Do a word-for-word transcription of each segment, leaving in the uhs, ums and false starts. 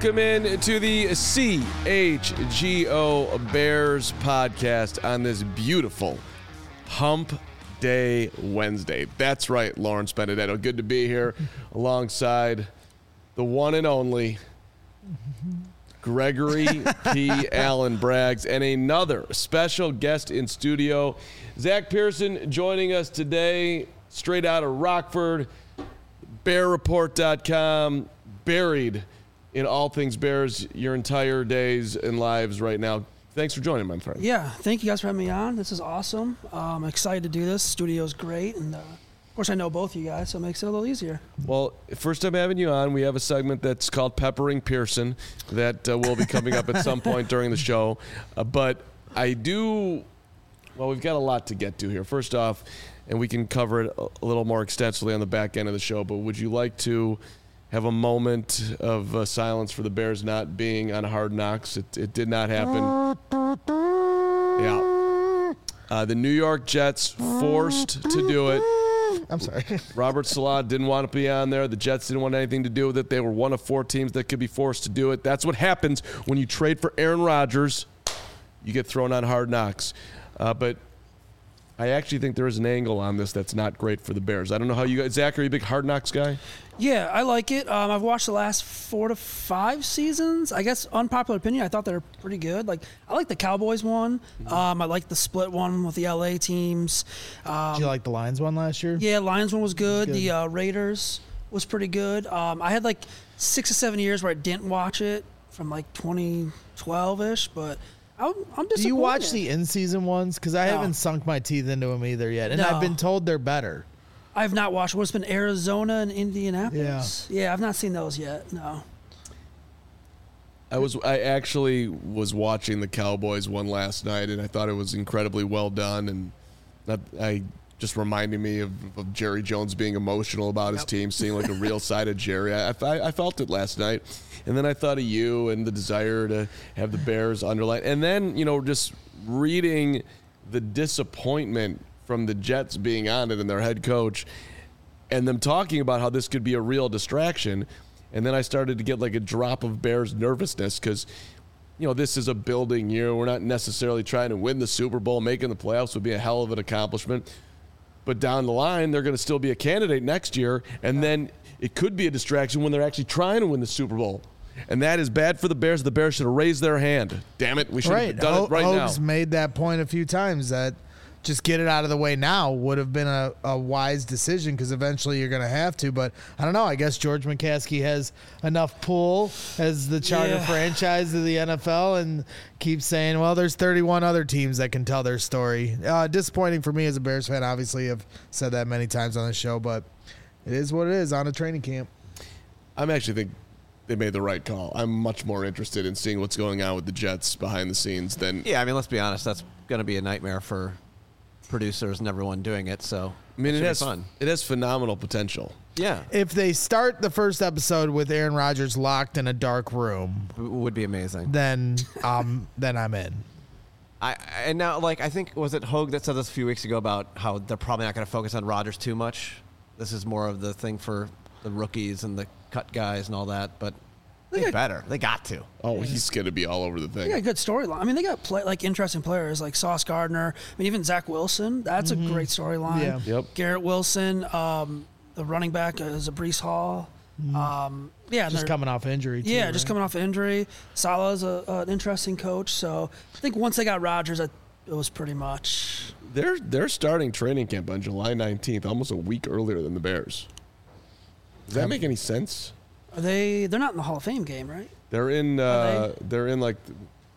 welcome in to the C H G O Bears podcast on this beautiful Hump Day Wednesday. That's right, Lawrence Benedetto. Good to be here alongside the one and only Gregory P. Allen Braggs and another special guest in studio, Zach Pearson, joining us today straight out of Rockford, bear report dot com, buried in all things Bears your entire days and lives right now. Thanks for joining, my friend. Yeah, thank you guys for having me on. This is awesome. Um, I'm excited to do this. Studio's great, and uh, of course I know both of you guys, so it makes it a little easier. Well, first time having you on, we have a segment that's called Peppering Pearson that uh, will be coming up at some point during the show. Uh, but I do, well, we've got a lot to get to here. First off, and we can cover it a little more extensively on the back end of the show, but would you like to have a moment of uh, silence for the Bears not being on Hard Knocks? It, it did not happen. Yeah. Uh, the New York Jets forced to do it. I'm sorry. Robert Saleh didn't want to be on there. The Jets didn't want anything to do with it. They were one of four teams that could be forced to do it. That's what happens when you trade for Aaron Rodgers. You get thrown on Hard Knocks. Uh, but I actually think there is an angle on this that's not great for the Bears. I don't know how you guys, Zach, are you a big Hard Knocks guy? Yeah, I like it. Um, I've watched the last four to five seasons. I guess unpopular opinion, I thought they were pretty good. Like I like the Cowboys one. Um, I like the split one with the L A teams. Um, Did you like the Lions one last year? Yeah, Lions one was good. good. The uh, Raiders was pretty good. Um, I had like six or seven years where I didn't watch it from like twenty twelve-ish, but I'm, I'm disappointed. Do you watch the in-season ones? Because I No. haven't sunk my teeth into them either yet, and No. I've been told they're better. I've not watched. What's been Arizona and Indianapolis? Yeah. Yeah, I've not seen those yet. No. I was I actually was watching the Cowboys one last night, and I thought it was incredibly well done, and that I just reminding me of, of Jerry Jones being emotional about his Yep. team, seeing like a real side of Jerry. I, I, I felt it last night, and then I thought of you and the desire to have the Bears underline, and then you know just reading the disappointment from the Jets being on it and their head coach, and them talking about how this could be a real distraction. And then I started to get like a drop of Bears nervousness because, you know, this is a building year. We're not necessarily trying to win the Super Bowl. Making the playoffs would be a hell of an accomplishment. But down the line, they're going to still be a candidate next year. And then it could be a distraction when they're actually trying to win the Super Bowl. And that is bad for the Bears. The Bears should have raised their hand. Damn it. We should Right. have done Ho- it right Hogs now. made that point a few times that just get it out of the way now would have been a, a wise decision because eventually you're going to have to. But I don't know. I guess George McCaskey has enough pull as the charter Yeah. franchise of the N F L and keeps saying, well, there's thirty-one other teams that can tell their story. Uh, disappointing for me as a Bears fan. Obviously, I've said that many times on the show, but it is what it is on a training camp. I'm actually think they made the right call. I'm much more interested in seeing what's going on with the Jets behind the scenes than Yeah, I mean, let's be honest. That's going to be a nightmare for producers and everyone doing it. So I mean, it, it should has be fun. it has phenomenal potential. Yeah, If they start the first episode with Aaron Rodgers locked in a dark room, it would be amazing. then um then I'm in. I and now like I think was it Hogue that said this a few weeks ago about how they're probably not going to focus on Rodgers too much. This is more of the thing for the rookies and the cut guys and all that. But they, got- better. They got to. Oh, he's going to be all over the They thing. got a good storyline. I mean, they got play, like interesting players like Sauce Gardner. I mean, even Zach Wilson. That's a great storyline. Yeah. Yep. Garrett Wilson, um, the running back is a Brees Hall. Um, yeah, and Just they're- coming off injury, too, Yeah, right? just coming off injury. Salah's a, an interesting coach. So I think once they got Rodgers, it was pretty much. They're they're starting training camp on July nineteenth, almost a week earlier than the Bears. Does that make any sense? Are they? They're not in the Hall of Fame game, right? They're in. Are Uh, they're in like.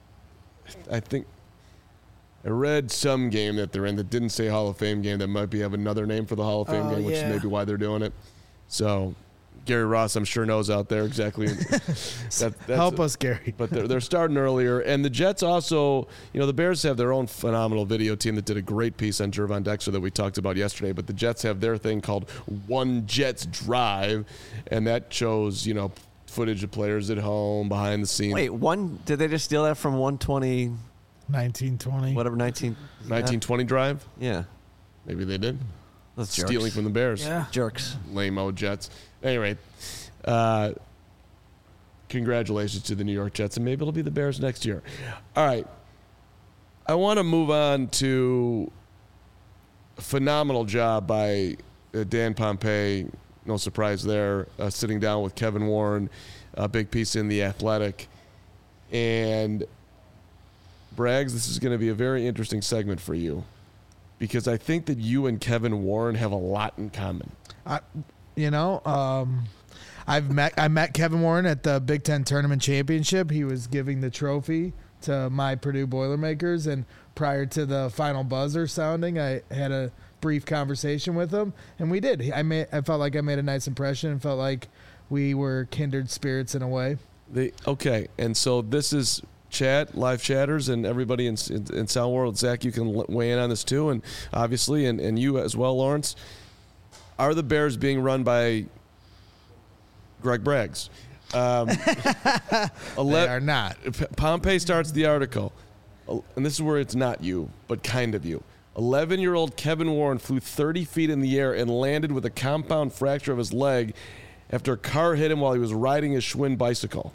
I think. I read some game that they're in that didn't say Hall of Fame game. That might be have another name for the Hall of Fame Oh, game, which yeah. is maybe why they're doing it. So, Gary Ross, I'm sure knows out there exactly. that, that's Help us, Gary. But they're, they're starting earlier. And the Jets also, you know, the Bears have their own phenomenal video team that did a great piece on Gervon Dexter that we talked about yesterday. But the Jets have their thing called One Jets Drive. And that shows, you know, footage of players at home, behind the scenes. Wait, one? Did they just steal that from one twenty? nineteen twenty. Whatever, nineteen. nineteen twenty Drive? Yeah, Maybe they did. that's Stealing jerks. from the Bears. Yeah. jerks. Lame-o Jets. Anyway, uh, congratulations to the New York Jets, and maybe it'll be the Bears next year. All right. I want to move on to a phenomenal job by uh, Dan Pompei. No surprise there. Uh, sitting down with Kevin Warren, a big piece in The Athletic. And Braggs, this is going to be a very interesting segment for you because I think that you and Kevin Warren have a lot in common. I, you know, um, I've met I met Kevin Warren at the Big Ten Tournament Championship. He was giving the trophy to my Purdue Boilermakers, and prior to the final buzzer sounding, I had a brief conversation with him, and we did. I made I felt like I made a nice impression and felt like we were kindred spirits in a way. They, okay, and so this is chat, live chatters, and everybody in, in, in Sound World. Zach, you can weigh in on this too, and obviously, and, and you as well, Lawrence. Are the Bears being run by Greg Braggs? Um, ele- They are not. P- Pompei starts the article, and this is where it's not you, but kind of you. eleven-year-old Kevin Warren flew thirty feet in the air and landed with a compound fracture of his leg after a car hit him while he was riding his Schwinn bicycle.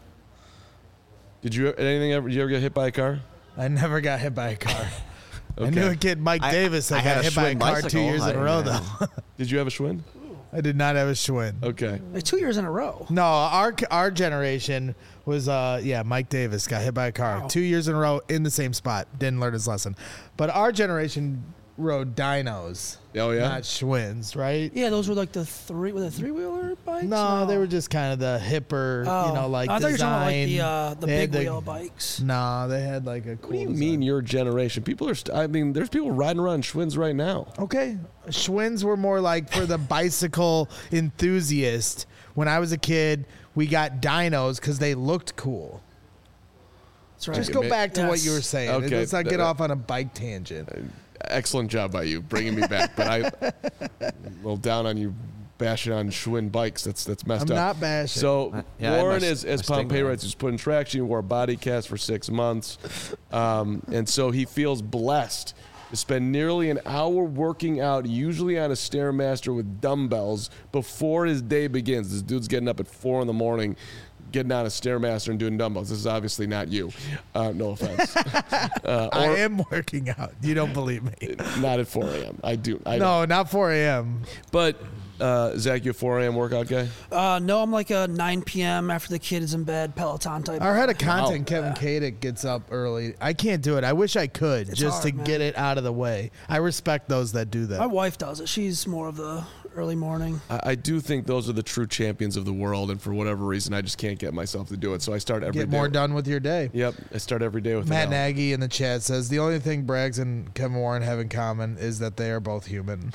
Did you anything ever? Did you ever get hit by a car? I never got hit by a car. Okay. I knew a kid, Mike I- Davis, that I had got a hit by a Schwinn car two bicycle. years in a I- row, yeah. though. Did you have a Schwinn? I did not have a Schwinn. Okay. Like two years in a row. No, our our generation was, uh, yeah, Mike Davis got hit by a car Wow. two years in a row in the same spot. Didn't learn his lesson. But our generation rode dynos, Oh yeah. not Schwinns, right? Yeah, those were like the three, were they three wheeler bikes? No, they were just kind of the hipper, Oh. you know, like I thought you were talking about like design. the uh, the They had big the- wheel bikes. No, they had like a cool What do you design. mean your generation? People are. St- I mean, there's people riding around Schwinn's right now. Okay. Schwinns were more like for the bicycle enthusiast. When I was a kid, we got dynos because they looked cool. That's right. Just Okay, go ma- back to what Yes. you were saying. Okay, Let's not get th- off on a bike tangent. Excellent job by you bringing me back, but I a little down on you bashing on Schwinn bikes. That's that's messed I'm up. not bashing. So Yeah, I had Warren, my- as as my Pompei stigma. writes, was put in traction. He wore a body cast for six months, um, and so he feels blessed to spend nearly an hour working out, usually on a Stairmaster with dumbbells, before his day begins. This dude's getting up at four in the morning, getting on a Stairmaster and doing dumbbells. This is obviously not you. Uh, no offense. uh, I or am working out. You don't believe me. not at four a.m. I do. I No, not four a.m. But uh, Zach, you a four a.m. workout guy? Uh, no, I'm like a nine p.m. after the kid is in bed Peloton type. Our head of content, Wow. Kevin Kadick, gets up early. I can't do it. I wish I could It's just hard, to man. get it out of the way. I respect those that do My that. wife does it. She's more of the early morning. I, I do think those are the true champions of the world, and for whatever reason, I just can't get myself to do it. So I start every day. Get more with- done with your day. Yep, I start every day with Matt an L. Nagy in the chat says the only thing Braggs and Kevin Warren have in common is that they are both human.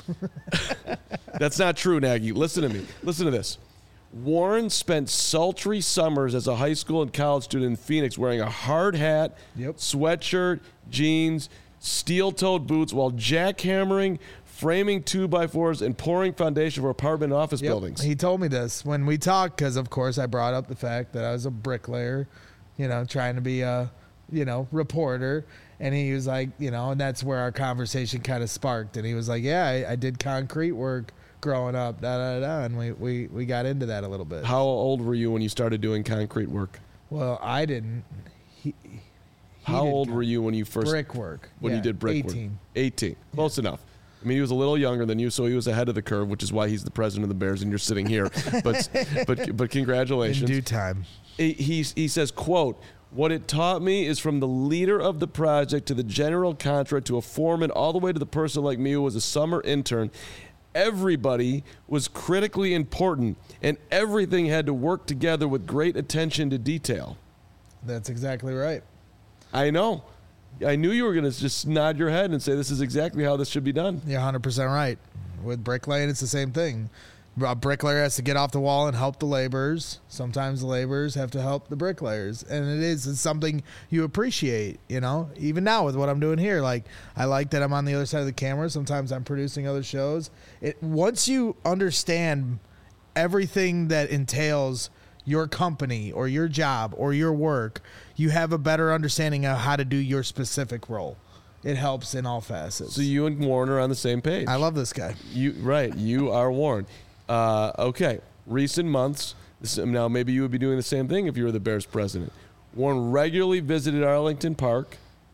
That's not true, Nagy. Listen to me. Listen to this. Warren spent sultry summers as a high school and college student in Phoenix wearing a hard hat, Yep. sweatshirt, jeans, steel-toed boots while jackhammering, framing two-by-fours, and pouring foundation for apartment and office Yep. buildings. He told me this when we talked because, of course, I brought up the fact that I was a bricklayer, you know, trying to be a, you know, reporter. And he was like, you know, and that's where our conversation kind of sparked. And he was like, yeah, I, I did concrete work growing up, da da da. And we, we, we got into that a little bit. How old were you when you started doing concrete work? Well, I didn't. He, he How did old con- were you when you first Brickwork. when Yeah, you did brick eighteen. work? eighteen. Close enough. I mean, he was a little younger than you, so he was ahead of the curve, which is why he's the president of the Bears, and you're sitting here. but but but In congratulations. due time. he, he he says, quote, "What it taught me is from the leader of the project to the general contractor to a foreman, all the way to the person like me who was a summer intern. Everybody was critically important, and everything had to work together with great attention to detail." That's exactly right. I know. I knew you were going to just nod your head and say this is exactly how this should be done. You're one hundred percent right. With bricklaying, it's the same thing. A bricklayer has to get off the wall and help the laborers. Sometimes the laborers have to help the bricklayers. And it is it's something you appreciate, you know? Even now with what I'm doing here, like I like that I'm on the other side of the camera. Sometimes I'm producing other shows. It once you understand everything that entails your company or your job or your work, you have a better understanding of how to do your specific role. It helps in all facets. So you and Warren are on the same page. I love this guy. You right. You are Warren. Uh, okay. Recent months, This, now, maybe you would be doing the same thing if you were the Bears president. Warren regularly visited Arlington Park.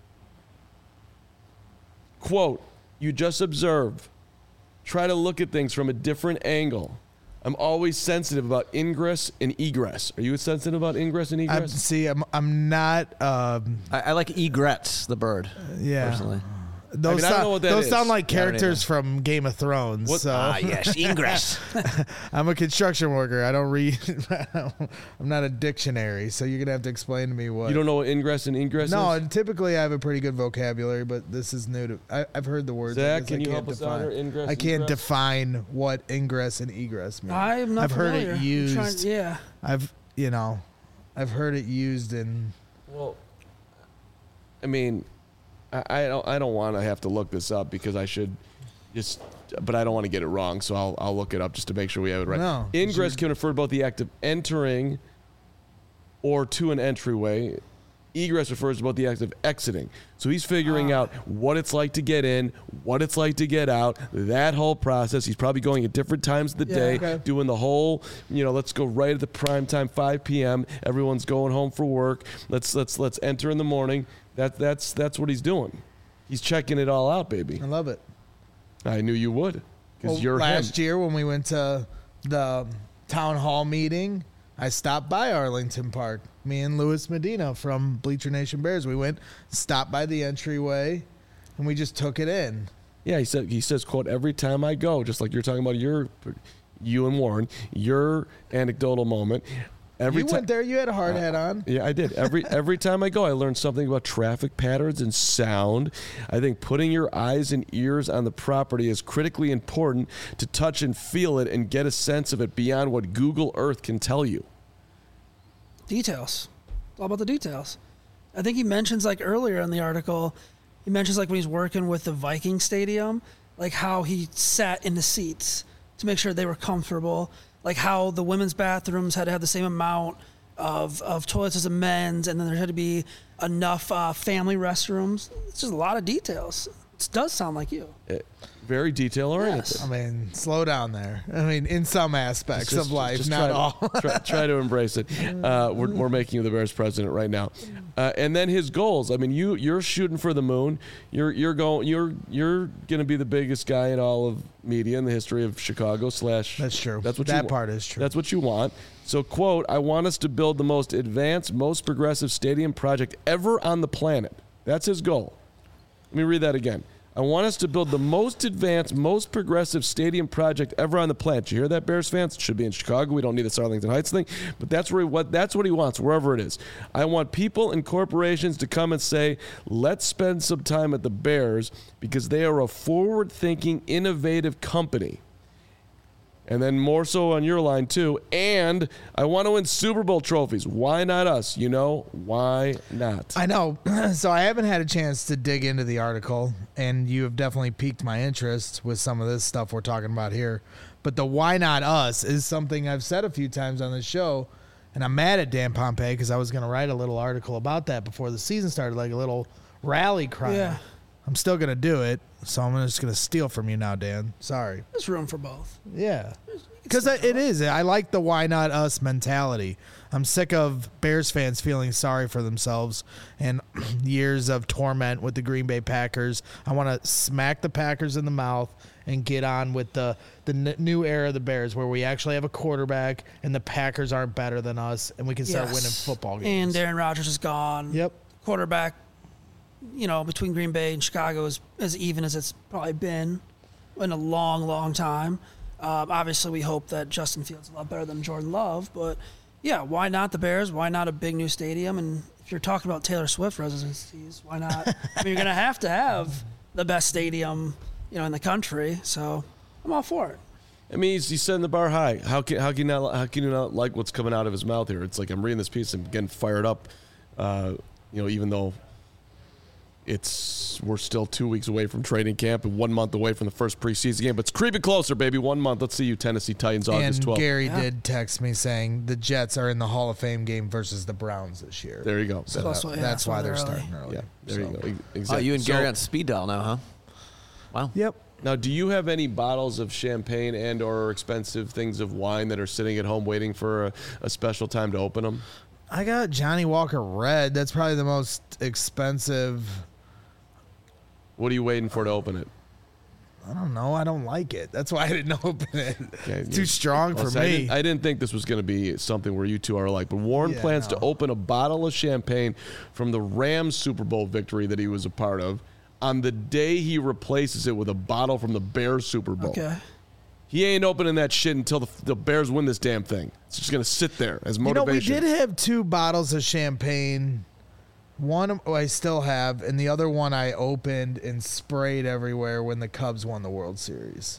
Quote, you just observe. Try to look at things from a different angle. I'm always sensitive about ingress and egress. Are you sensitive about ingress and I, egress? see, I'm I'm not. Um, I, I like egrets, the bird. yeah. Personally. Those, I mean, I don't sound, know what that those is. sound like Yeah, I don't characters from Game of Thrones. What- So Ah, yes, ingress. I'm a construction worker. I don't read. I'm not a dictionary, so you're gonna have to explain to me what. You don't know what ingress and egress No, is? and typically I have a pretty good vocabulary, but this is new to. I, I've heard the words. I Zach, guess can I you can't help us define- out here? Ingress, I can't egress? define what ingress and egress mean. I'm not I've heard familiar. it I'm used. trying- yeah. I've you know, I've heard it used in. Well, I mean, I, I don't. I don't want to have to look this up because I should just. But I don't want to get it wrong, so I'll I'll look it up just to make sure we have it right. No, Ingress can refer to both the act of entering or to an entryway. Egress refers to both the act of exiting. So he's figuring Ah. out what it's like to get in, what it's like to get out, that whole process. He's probably going at different times of the Yeah, day, okay. doing the whole, you know, let's go right at the prime time, five p.m. Everyone's going home for work. Let's let's let's enter in the morning. That that's that's what he's doing. He's checking it all out, baby. I love it. I knew you would, because Well, you're last him. year when we went to the town hall meeting, I stopped by Arlington Park. Me and Luis Medina from Bleacher Nation Bears. We went, stopped by the entryway, and we just took it in. Yeah, he said he says, quote, every time I go, just like you're talking about your, you and Warren, your anecdotal moment. Every you ti- went there. You had a hard hat on. Yeah, I did. Every every time I go, I learn something about traffic patterns and sound. I think putting your eyes and ears on the property is critically important to touch and feel it and get a sense of it beyond what Google Earth can tell you. Details. It's all about the details. I think he mentions, like, earlier in the article, he mentions, like, when he's working with the Viking Stadium, like, how he sat in the seats to make sure they were comfortable, like, how the women's bathrooms had to have the same amount of, of toilets as the men's, and then there had to be enough uh, family restrooms. It's just a lot of details. It does sound like you. Eh, Very detail oriented. Yes. I mean, slow down there. I mean, in some aspects Just- of life, just not try all. To, try, try to embrace it. Uh, we're, we're making you the Bears president right now, uh, and then his goals. I mean, you you're shooting for the moon. You're you're going. You're you're going to be the biggest guy in all of media in the history of Chicago. Slash. That's true. That's what that you, part is true. That's what you want. So, quote: I want us to build the most advanced, most progressive stadium project ever on the planet. That's his goal. Let me read that again. I want us to build the most advanced, most progressive stadium project ever on the planet. You hear that, Bears fans? It should be in Chicago. We don't need this Arlington Heights thing, but that's where he, what that's what he wants, wherever it is. I want people and corporations to come and say, "Let's spend some time at the Bears because they are a forward-thinking, innovative company." And then more so on your line, too. And I want to win Super Bowl trophies. Why not us? You know, why not? I know. So I haven't had a chance to dig into the article, and you have definitely piqued my interest with some of this stuff we're talking about here. But the why not us is something I've said a few times on the show, and I'm mad at Dan Pompei because I was going to write a little article about that before the season started, like a little rally cry. Yeah. I'm still going to do it, so I'm just going to steal from you now, Dan. Sorry. There's room for both. Yeah. Because it is. I like the why not us mentality. I'm sick of Bears fans feeling sorry for themselves and years of torment with the Green Bay Packers. I want to smack the Packers in the mouth and get on with the, the n- new era of the Bears where we actually have a quarterback and the Packers aren't better than us and we can start Yes. winning football And games. Aaron Rodgers is gone. Yep. Quarterback, you know, between Green Bay and Chicago is as even as it's probably been in a long, long time. Um, obviously, we hope that Justin Fields is a lot better than Jordan Love, but yeah, why not the Bears? Why not a big new stadium? And if you're talking about Taylor Swift residencies, why not? I mean, you're going to have to have the best stadium, you know, in the country. So I'm all for it. I mean, he's, he's setting the bar high. How can how can you not how can you not like what's coming out of his mouth here? It's like I'm reading this piece and getting fired up. Uh, you know, even though it's we're still two weeks away from training camp and one month away from the first preseason game, but it's creeping closer, baby. One month. Let's see you, Tennessee Titans, August And twelfth. Gary Yeah. did text me saying the Jets are in the Hall of Fame game versus the Browns this year. There you go. So Plus, that- yeah, that's so why they're they're early. starting early. Yeah, there you So- go. E- Oh, Exactly. you and So- Gary on speed dial now, huh? Wow. Yep. Now, do you have any bottles of champagne and or expensive things of wine that are sitting at home waiting for a, a special time to open them? I got Johnny Walker Red. That's probably the most expensive. What are you waiting for to open it? I don't know. I don't like it. That's why I didn't open it. Okay, It's too strong Well, for see, I me. didn't, I didn't think this was going to be something where you two are alike, but Warren Yeah, plans no. to open a bottle of champagne from the Rams Super Bowl victory that he was a part of on the day he replaces it with a bottle from the Bears Super Bowl. Okay. He ain't opening that shit until the, the Bears win this damn thing. It's just going to sit there as You know, we motivation. did have two bottles of champagne. One I still have, and the other one I opened and sprayed everywhere when the Cubs won the World Series.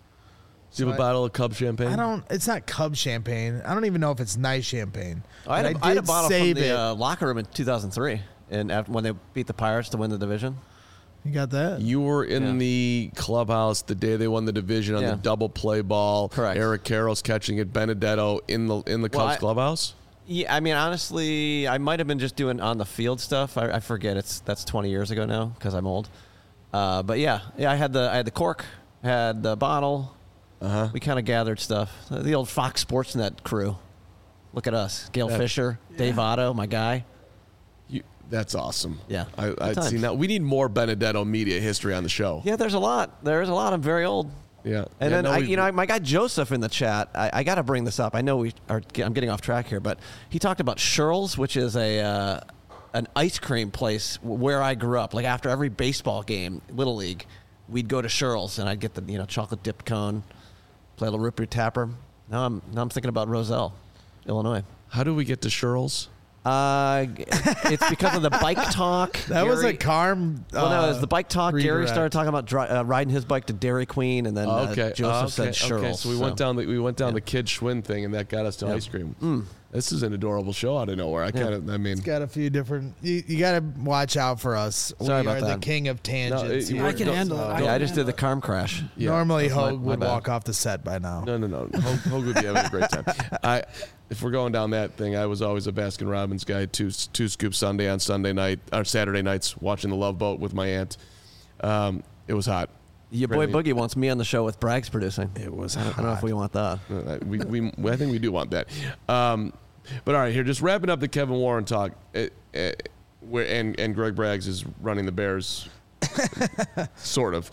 Do you have a So I- bottle of Cub champagne? I don't. It's not Cub champagne. I don't even know if it's nice champagne. I had, But a, I had a did bottle from save the it. uh, locker room in two thousand three, and after, when they beat the Pirates to win the division. You got that? You were in Yeah. the clubhouse the day they won the division on Yeah. the double play ball. Correct. Eric Carroll's catching it. Benedetto in the in the Well, Cubs I- clubhouse. Yeah, I mean, honestly, I might have been just doing on the field stuff. I, I forget. It's that's twenty years ago now because I'm old. Uh, but yeah, yeah, I had the I had the cork, had the bottle. Uh huh. We kind of gathered stuff. The old Fox Sportsnet crew. Look at us: Gail Yeah. Fisher, Dave Otto, my guy. You, that's awesome. Yeah. I, I Good see times. now. We need more Benedetto media history on the show. Yeah, there's a lot. There's a lot. I'm very old. Yeah. And Yeah, then, no, I, we- you know, my guy Joseph in the chat, I, I got to bring this up. I know we are. I'm getting off track here, but he talked about Shirl's, which is a uh, an ice cream place where I grew up. Like after every baseball game, Little League, we'd go to Shirl's, and I'd get the you know chocolate dipped cone, play a little root beer tapper. Now I'm now I'm thinking about Roselle, Illinois. How do we get to Shirl's? Uh, it's because of the bike talk. That was a Gary- Carm. Well, no, it was uh, the bike talk. Gary redirect. started talking about dri- uh, riding his bike to Dairy Queen, and then uh, okay. Joseph okay. said Shirl's. Okay. So we went down the we went down the Kid Schwinn thing, and that got us to Yeah. ice cream. Mm. This is an adorable show out of nowhere. I kind of. I mean. Got a few different. You, you got to watch out for us. Sorry we about are that. the king of tangents. it- here. I can don't- handle it. uh, Yeah, I can just did handle the Carm crash. Yeah. Normally, That's my- Hogue my would bad. walk off the set by now. No, no, no. Hogue, Hogue would be having a great time. I, if we're going down that thing, I was always a Baskin Robbins guy. Two two scoops Sunday on Sunday night or Saturday nights, watching the Love Boat with my aunt. Um, it was hot. Your boy Really? Boogie wants me on the show with Bragg's producing. It was I don't, I don't know if we want that. Uh, we, we, I think we do want that. Um, but all right, here, just wrapping up the Kevin Warren talk. Uh, uh, where and and Greg Braggs is running the Bears, sort of.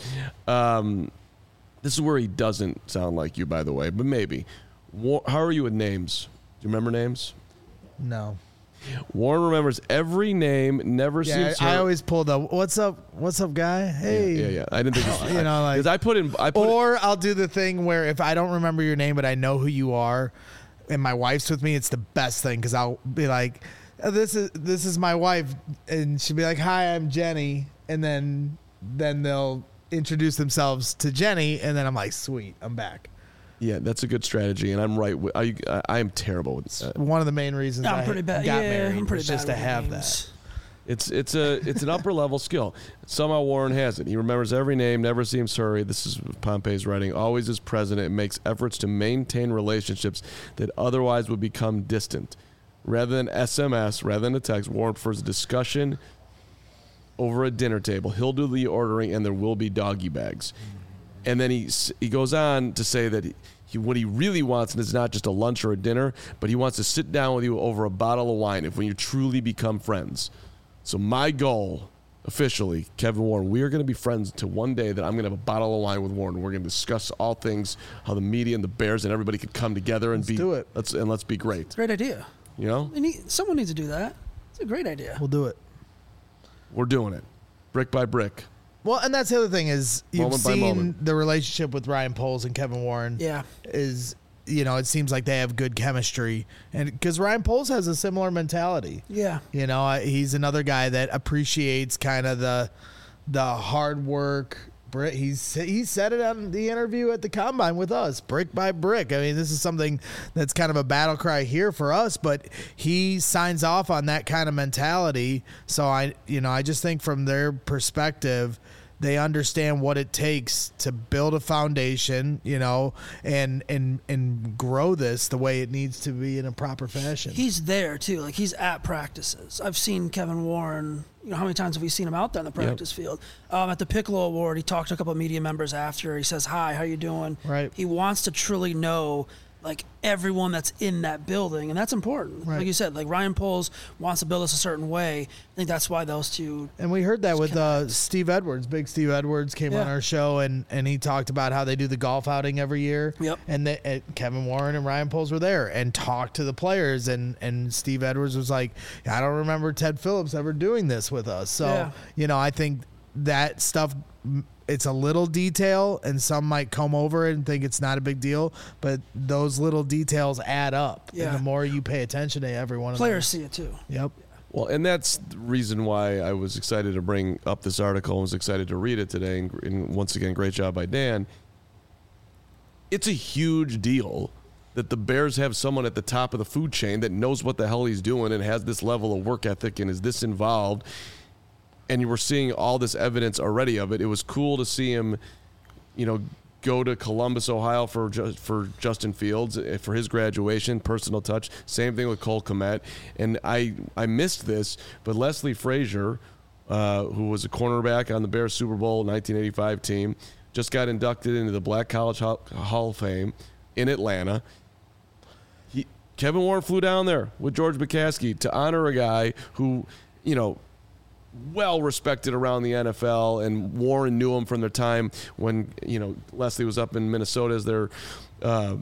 Um, this is where he doesn't sound like you, by the way, but maybe. War, how are you with names? Do you remember names? No. Warren remembers every name. Never Yeah, seems. I, I hurt. always pull the "What's up? What's up, guy?" Hey. Yeah, yeah. I didn't think. This, You know, like- because I put in. I put. Or I'll do the thing where if I don't remember your name but I know who you are, and my wife's with me, it's the best thing because I'll be like, "Oh, "This is this is my wife," and she'll be like, "Hi, I'm Jenny," and then then they'll introduce themselves to Jenny, and then I'm like, "Sweet, I'm back." yeah, that's a good strategy, and I'm right. With, I, I, I am terrible with that. One of the main reasons I'm I pretty bad. got yeah, married I'm pretty was bad just to with have names. It's it's a it's an upper level skill. Somehow Warren has it. He remembers every name, never seems hurried. This is Pompey's writing. Always is present and makes efforts to maintain relationships that otherwise would become distant. Rather than S M S, rather than a text, Warren prefers a discussion over a dinner table. He'll do the ordering, and there will be doggy bags. And then he s- he goes on to say that he, he what he really wants is not just a lunch or a dinner, but he wants to sit down with you over a bottle of wine if when you truly become friends. So my goal, officially, Kevin Warren, we are going to be friends until one day that I'm going to have a bottle of wine with Warren. We're going to discuss all things, how the media and the Bears and everybody could come together and Let's be do it. Let's and let's be great. Great idea. You know, They need, someone needs to do that. It's a great idea. We'll do it. we're doing it, brick by brick. Well, and that's the other thing is you've Moment by seen moment. the relationship with Ryan Poles and Kevin Warren. Yeah. Is you know it seems like they have good chemistry, and because Ryan Poles has a similar mentality. Yeah. You know, I- he's another guy that appreciates kind of the the hard work. Brick, he's he said it on the interview at the combine with us, brick by brick. I mean, this is something that's kind of a battle cry here for us, but he signs off on that kind of mentality. So I, you know, I just think from their perspective, they understand what it takes to build a foundation, you know, and and and grow this the way it needs to be in a proper fashion. He's there too. Like he's at practices. I've seen Kevin Warren. You know, how many times have we seen him out there in the practice yep. field? Um, at the Piccolo Award, he talked to a couple of media members after. He says, "Hi, how you doing?" Right. He wants to truly know, like, everyone that's in that building, and that's important. Right. Like you said, like Ryan Poles wants to build us a certain way. I think that's why those two. And we heard that with uh, Steve Edwards. Big Steve Edwards came yeah. on our show, and, and he talked about how they do the golf outing every year. Yep. And they, uh, Kevin Warren and Ryan Poles were there and talked to the players, and, and Steve Edwards was like, I don't remember Ted Phillips ever doing this with us. So, yeah. you know, I think that stuff, it's a little detail, and some might come over it and think it's not a big deal, but those little details add up. Yeah. And the more you pay attention to every one of them. Players see it too. Yep. Well, and that's the reason why I was excited to bring up this article and was excited to read it today. And, and once again, great job by Dan. It's a huge deal that the Bears have someone at the top of the food chain that knows what the hell he's doing and has this level of work ethic and is this involved. And you were seeing all this evidence already of it. It was cool to see him, you know, go to Columbus, Ohio for just, for Justin Fields for his graduation, personal touch. Same thing with Cole Kmet. And I I missed this, but Leslie Frazier, uh, who was a cornerback on the Bears Super Bowl nineteen eighty-five team, just got inducted into the Black College Hall, Hall of Fame in Atlanta. He, Kevin Warren flew down there with George McCaskey to honor a guy who, you know, well respected around the N F L, and Warren knew him from their time when, you know, Leslie was up in Minnesota as their uh,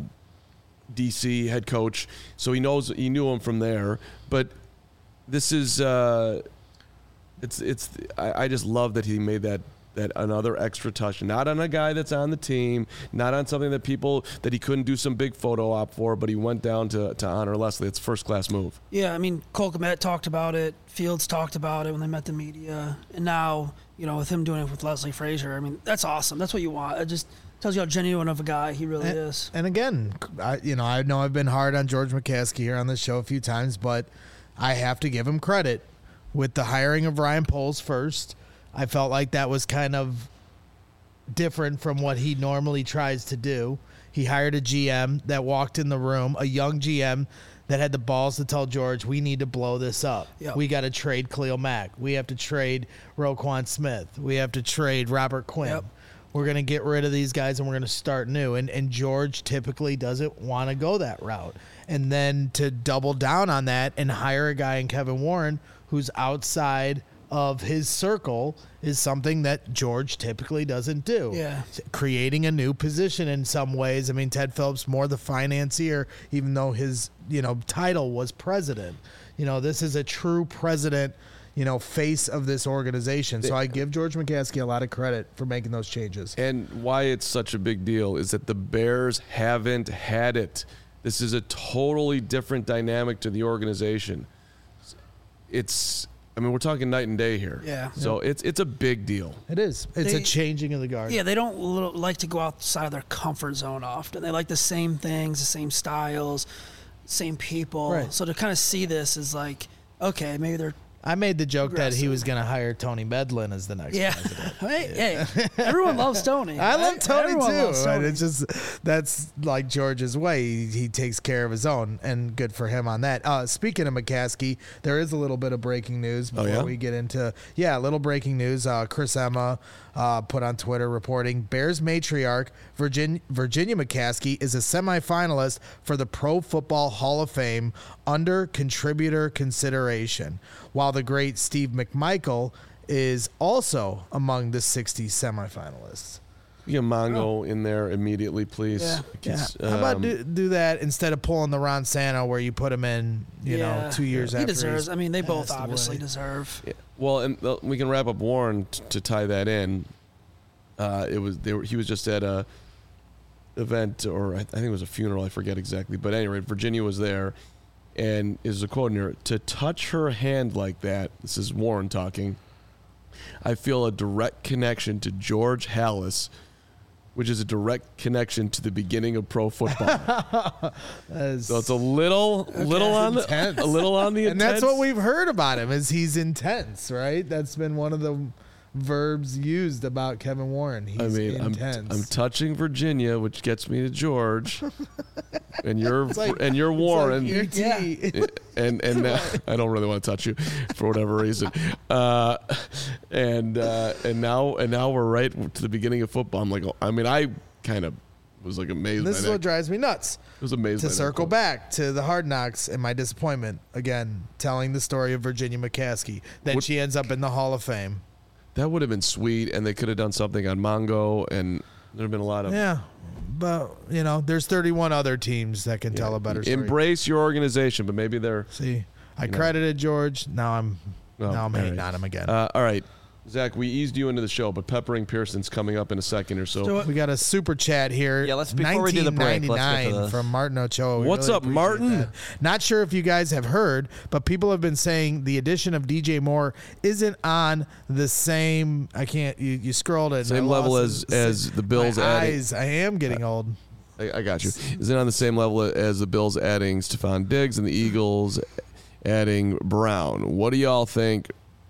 D C head coach, so he knows he knew him from there. But this is uh, it's it's I, I just love that he made that that another extra touch, not on a guy that's on the team, not on something that people that he couldn't do some big photo op for, but he went down to, to honor Leslie. It's a first class move. Yeah, I mean, Cole Kmet talked about it. Fields talked about it when they met the media, and now, you know, with him doing it with Leslie Frazier, I mean, that's awesome. That's what you want. It just tells you how genuine of a guy he really and, is. And again, I, you know, I know I've been hard on George McCaskey here on this show a few times, but I have to give him credit with the hiring of Ryan Poles first. I felt like that was kind of different from what he normally tries to do. He hired a G M that walked in the room, a young G M that had the balls to tell George, we need to blow this up. Yep. We got to trade Khalil Mack. We have to trade Roquan Smith. We have to trade Robert Quinn. Yep. We're going to get rid of these guys and we're going to start new. And and George typically doesn't want to go that route. And then to double down on that and hire a guy in Kevin Warren who's outside of his circle is something that George typically doesn't do. Yeah. Creating a new position in some ways. I mean, Ted Phillips more the financier, even though his, you know, title was president. You know, this is a true president, you know, face of this organization. So I give George McCaskey a lot of credit for making those changes. And why it's such a big deal is that the Bears haven't had it. This is a totally different dynamic to the organization. It's I mean, we're talking night and day here. Yeah. So it's it's a big deal. It is. It's They- a changing of the guard. Yeah, they don't li- like to go outside of their comfort zone often. They like the same things, the same styles, same people. Right. So to kind of see this is like, okay, maybe they're I made the joke that he Aggressive. was going to hire Tony Medlin as the next yeah. president. hey, hey, everyone loves Tony. I love Tony Everyone too. loves Right? Tony. It's just that's like George's way. He, he takes care of his own, and good for him on that. Uh, speaking of McCaskey, there is a little bit of breaking news before yeah? we get into yeah, a little breaking news. Uh, Chris Emma uh, put on Twitter reporting Bears matriarch Virginia, Virginia McCaskey is a semifinalist for the Pro Football Hall of Fame under contributor consideration, while the great Steve McMichael is also among the sixty semifinalists. You get Mongo in there immediately, please. Yeah. Yeah. It's, How about um, do, do that instead of pulling the Ron Santo where you put him in, you Yeah. know, two years he after deserves. he's I mean, they both passed obviously away. deserve. Yeah. Well, and uh, we can wrap up Warren t- to tie that in. Uh, it was they were, he was just at a event, or I, I think it was a funeral. I forget exactly, but anyway, Virginia was there, and is a quote in here: "To touch her hand like that." This is Warren talking. I feel a direct connection to George Halas, which is a direct connection to the beginning of pro football. That's- So it's a little, little on the, Intense. a little on the and intense. that's what we've heard about him is he's intense, right? That's been one of the verbs used about Kevin Warren. He's I mean, I'm, intense. I'm touching Virginia, which gets me to George, and you're like- and you're Warren, It's like E T. and and now, I don't really want to touch you for whatever reason, uh, and uh, and now and now we're right to the beginning of football. I'm like, I mean, I kind of was like amazed. This by is that. what drives me nuts. It was amazing. To circle back to the Hard Knocks and my disappointment, again, telling the story of Virginia McCaskey. Then What- she ends up in the Hall of Fame. That would have been sweet, and they could have done something on Mongo, and there have been a lot of Yeah. But, you know, there's thirty-one other teams that can tell a better story. Embrace your organization, but maybe they're See, I you know. credited George. Now I'm Oh, now I'm all hating right. on him again. Uh, all right, Zach, we eased you into the show, but Peppering Pearson's coming up in a second or so. Do it. we got a super chat here. Yeah, let's- before we do the break, let's get to nineteen ninety-nine the- from Martin Ochoa. We What's really up, appreciate Martin? that. Not sure if you guys have heard, but people have been saying the addition of D J Moore isn't on the same. I can't. You, you scrolled it. and Same I level lost as it. as the Bills My adding. eyes. I am getting old. I, I got you. Is it on the same level as the Bills adding Stephon Diggs and the Eagles adding Brown? What do y'all think?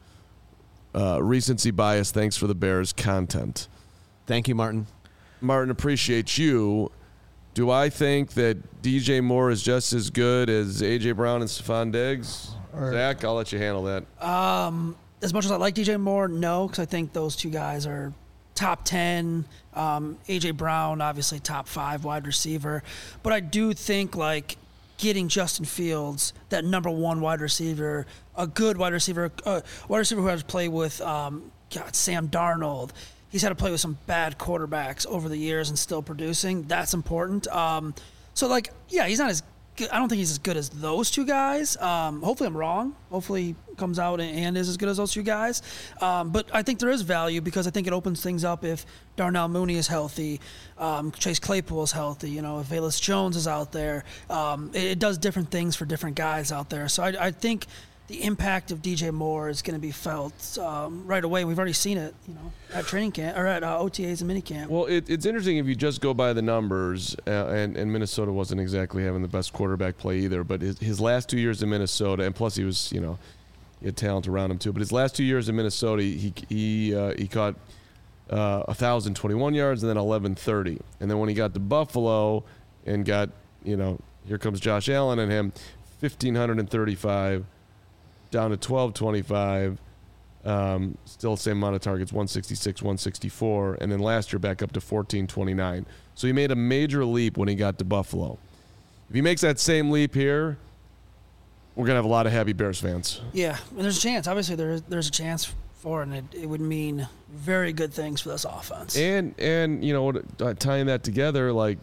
Uh, recency bias. Thanks for the Bears content. Thank you, Martin. Martin, appreciate you. Do I think that D J Moore is just as good as A J Brown and Stephon Diggs? Or- Zach, I'll let you handle that. Um, as much as I like D J Moore, no, because I think those two guys are top ten. Um, A J Brown, obviously top five wide receiver, but I do think like getting Justin Fields, that number one wide receiver, a good wide receiver, a wide receiver who has to play with um, God, Sam Darnold. He's had to play with some bad quarterbacks over the years and still producing. That's important. Um, so like, yeah, he's not as good. I don't think he's as good as those two guys. Um, hopefully I'm wrong. Hopefully he comes out and, and is as good as those two guys. Um, but I think there is value because I think it opens things up if Darnell Mooney is healthy, um, Chase Claypool is healthy, you know, if Velus Jones is out there. Um, it, it does different things for different guys out there. So I, I think the impact of D J Moore is going to be felt um, right away. We've already seen it, you know, at training camp or at uh, O T As and minicamp. Well, it, it's interesting if you just go by the numbers, uh, and, and Minnesota wasn't exactly having the best quarterback play either, but his, his last two years in Minnesota, and plus he was, you know, he had talent around him too, but his last two years in Minnesota, he he uh, he caught uh, one thousand twenty-one yards and then eleven thirty. And then when he got to Buffalo and got, you know, here comes Josh Allen and him, one thousand five hundred thirty-five down to twelve twenty-five. Um, still the same amount of targets, one sixty-six, one sixty-four, and then last year back up to fourteen twenty-nine. So he made a major leap when he got to Buffalo. If he makes that same leap here, we're going to have a lot of happy Bears fans. Yeah, and there's a chance. Obviously, there, there's a chance for it, and it, it would mean very good things for this offense. And, and you know, uh, tying that together, like,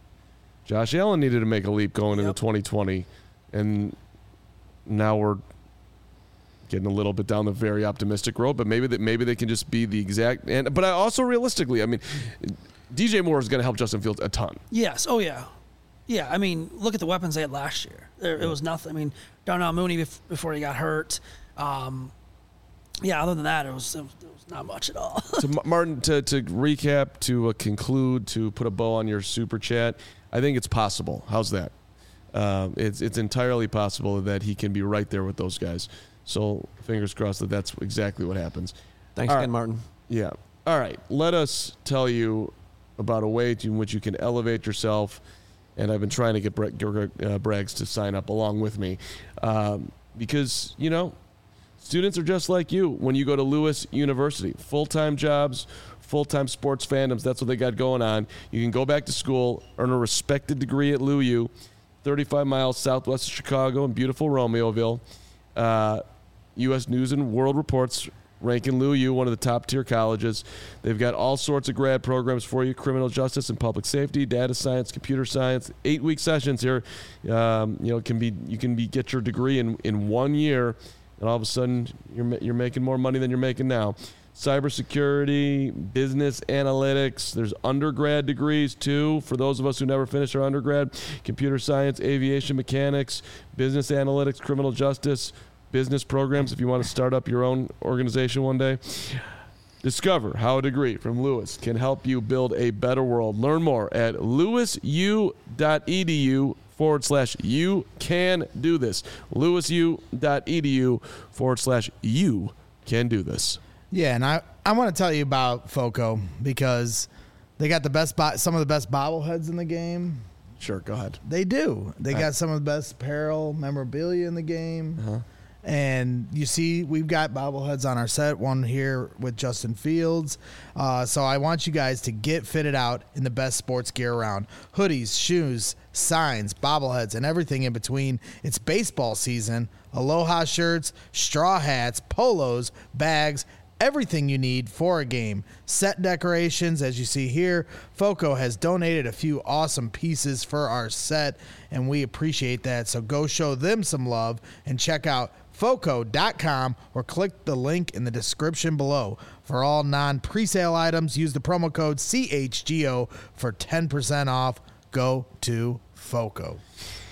Josh Allen needed to make a leap going Yep. into twenty twenty, and now we're getting a little bit down the very optimistic road, but maybe that maybe they can just be the exact. And but I also realistically, I mean, D J Moore is going to help Justin Fields a ton. Yes. Oh, yeah. Yeah. I mean, look at the weapons they had last year. There, it was nothing. I mean, Darnell Mooney bef- before he got hurt. Um, yeah. Other than that, it was, it was, it was not much at all. So Ma- Martin, to to recap, to uh, conclude, to put a bow on your super chat, I think it's possible. How's that? Um, it's it's entirely possible that he can be right there with those guys. So fingers crossed that that's exactly what happens. Thanks All again, right. Martin. Yeah. All right. Let us tell you about a way to, in which you can elevate yourself. And I've been trying to get Bra- uh, Braggs to sign up along with me um, because, you know, students are just like you when you go to Lewis University. Full-time jobs, full-time sports fandoms. That's what they got going on. You can go back to school, earn a respected degree at L U U, thirty-five miles southwest of Chicago in beautiful Romeoville. Uh, U S News and World Reports ranking L U U one of the top-tier colleges. They've got all sorts of grad programs for you: criminal justice and public safety, data science, computer science. Eight-week sessions here. Um, you know, it can be you can be get your degree in, in one year, and all of a sudden you're ma- you're making more money than you're making now. Cybersecurity, business analytics. There's undergrad degrees too for those of us who never finished our undergrad. Computer science, aviation mechanics, business analytics, criminal justice, business programs if you want to start up your own organization one day. Discover how a degree from Lewis can help you build a better world. Learn more at lewisu.edu forward slash you can do this. lewisu.edu forward slash you can do this. Yeah, and I, I want to tell you about Foco because they got the best bo- some of the best bobbleheads in the game. Sure, go ahead. They do. They Right. got some of the best apparel memorabilia in the game. Uh-huh. And you see, we've got bobbleheads on our set, one here with Justin Fields. Uh, so I want you guys to get fitted out in the best sports gear around. Hoodies, shoes, signs, bobbleheads, and everything in between. It's baseball season. Aloha shirts, straw hats, polos, bags, everything you need for a game. Set decorations, as you see here. Foco has donated a few awesome pieces for our set, and we appreciate that. So go show them some love and check out foco dot com or click the link in the description below. For all non-presale items, use the promo code C H G O for ten percent off. Go to Foco.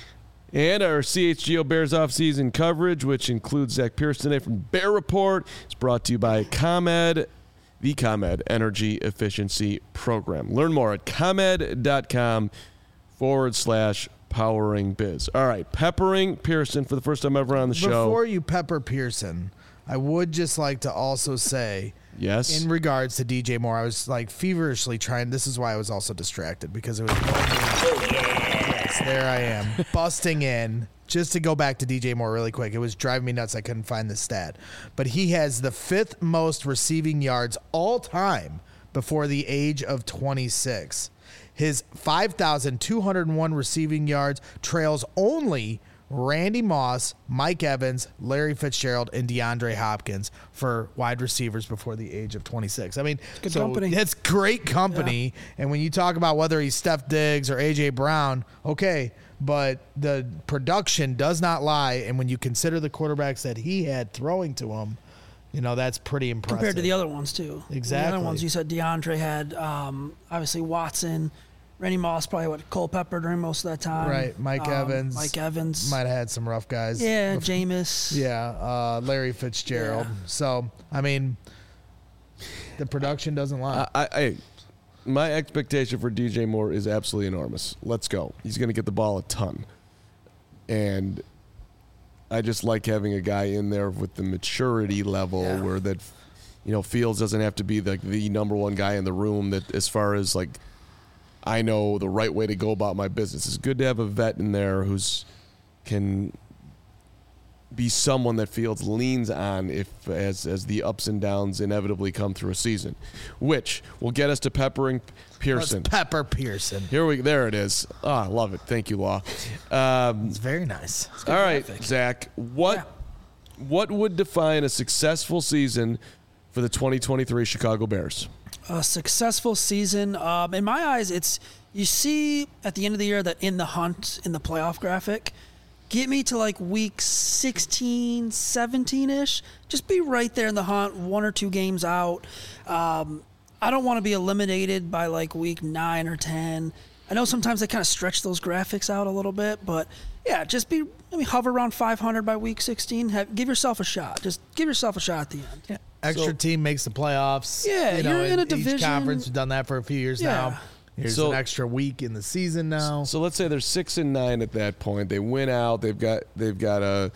And our C H G O Bears offseason coverage, which includes Zach Pierce today from Bear Report, is brought to you by ComEd, the ComEd Energy Efficiency Program. Learn more at ComEd.com forward slash powering biz. All right, peppering Pearson for the first time ever on the show. Before you pepper Pearson, I would just like to also say, yes, in regards to D J Moore, I was like feverishly trying. This is why I was also distracted because it was. Oh, yes, there I am, busting in. Just to go back to D J Moore really quick, it was driving me nuts. I couldn't find the stat. But he has the fifth most receiving yards all time before the age of twenty-six. His five thousand two hundred one receiving yards trails only Randy Moss, Mike Evans, Larry Fitzgerald, and DeAndre Hopkins for wide receivers before the age of twenty-six. I mean, Good so company. that's great company. Yeah. And when you talk about whether he's Steph Diggs or A J Brown, okay, but the production does not lie. And when you consider the quarterbacks that he had throwing to him, you know, that's pretty impressive. Compared to the other ones, too. Exactly. The other ones, you said DeAndre had, um, obviously, Watson. Randy Moss probably what Culpepper during most of that time. Right, Mike um, Evans. Mike Evans might have had some rough guys. Yeah, Jameis. Yeah, uh, Larry Fitzgerald. Yeah. So I mean, the production doesn't lie. I, I, I, my expectation for D J Moore is absolutely enormous. Let's go. He's going to get the ball a ton, and I just like having a guy in there with the maturity level Yeah. where that, you know, Fields doesn't have to be the the number one guy in the room. That as far as like, I know the right way to go about my business. It's good to have a vet in there who's can be someone that Fields leans on if as as the ups and downs inevitably come through a season, which will get us to peppering Pearson. Let's pepper Pearson. Here we there it is. Ah, I love it. Thank you, Law. Um, It's very nice. all right, Zach. What Yeah. what would define a successful season for the twenty twenty-three Chicago Bears? A successful season. Um, in my eyes, it's you see at the end of the year that in the hunt in the playoff graphic, get me to like week sixteen, seventeen-ish. Just be right there in the hunt, one or two games out. Um, I don't want to be eliminated by like week nine or ten. I know sometimes they kind of stretch those graphics out a little bit, but yeah, just be maybe hover around five hundred by week sixteen. Have, give yourself a shot. Just give yourself a shot at the end. Yeah. Extra So- team makes the playoffs. Yeah, you know, you're in a each division. conference. We've done that for a few years Yeah. now. Here's So- an extra week in the season now. So let's say they're six and nine at that point. They win out. They've got they've got a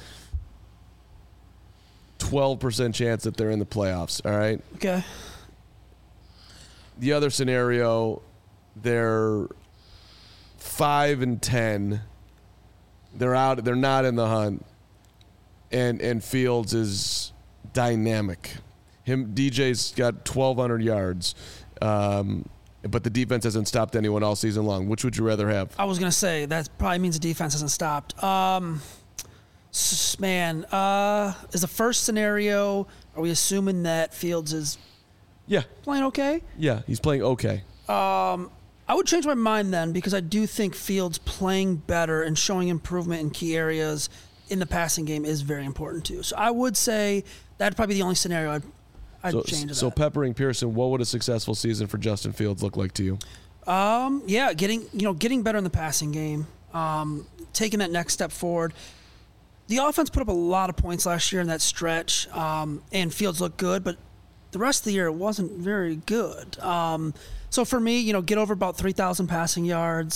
twelve percent chance that they're in the playoffs. All right. Okay. The other scenario, they're five and ten. They're out. They're not in the hunt, and and Fields is dynamic. Him D J's got twelve hundred yards, um, but the defense hasn't stopped anyone all season long. Which would you rather have? I was gonna say that probably means the defense hasn't stopped. Um, s- man, uh, is the first scenario? Are we assuming that Fields is Yeah, playing okay? yeah, he's playing okay. I would change my mind then because I do think Fields playing better and showing improvement in key areas in the passing game is very important too. So I would say that'd probably be the only scenario I'd, I'd So, change. to so that. peppering Pearson, what would a successful season for Justin Fields look like to you? Um, yeah, getting you know getting better in the passing game, um, taking that next step forward. The offense put up a lot of points last year in that stretch, um, and Fields looked good, but the rest of the year it wasn't very good. Um, so for me, you know, get over about three thousand passing yards.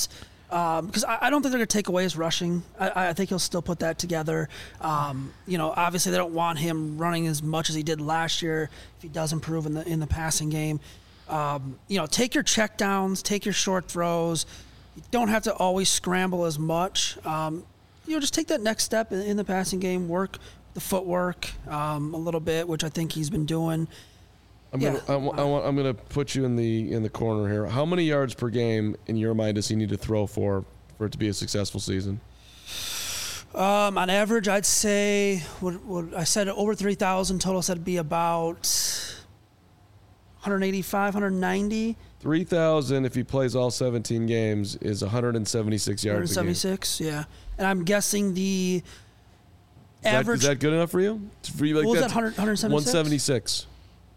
Because um, I, I don't think they're going to take away his rushing. I, I think he'll still put that together. Um, you know, obviously they don't want him running as much as he did last year if he does improve in the in the passing game. Um, you know, take your check downs, take your short throws. You don't have to always scramble as much. Um, you know, just take that next step in, in the passing game. Work the footwork um, a little bit, which I think he's been doing. I'm yeah. gonna, I, I want, I'm gonna put you in the in the corner here. How many yards per game in your mind does he need to throw for for it to be a successful season? Um, on average, I'd say what, what I said over three thousand total. Said it'd be about one eighty-five, one ninety. three thousand if he plays all seventeen games is one seventy-six yards. one seventy-six, yeah. And I'm guessing the is average. That, is that good enough for you? For you like what was that that? one seventy-six. one seventy-six.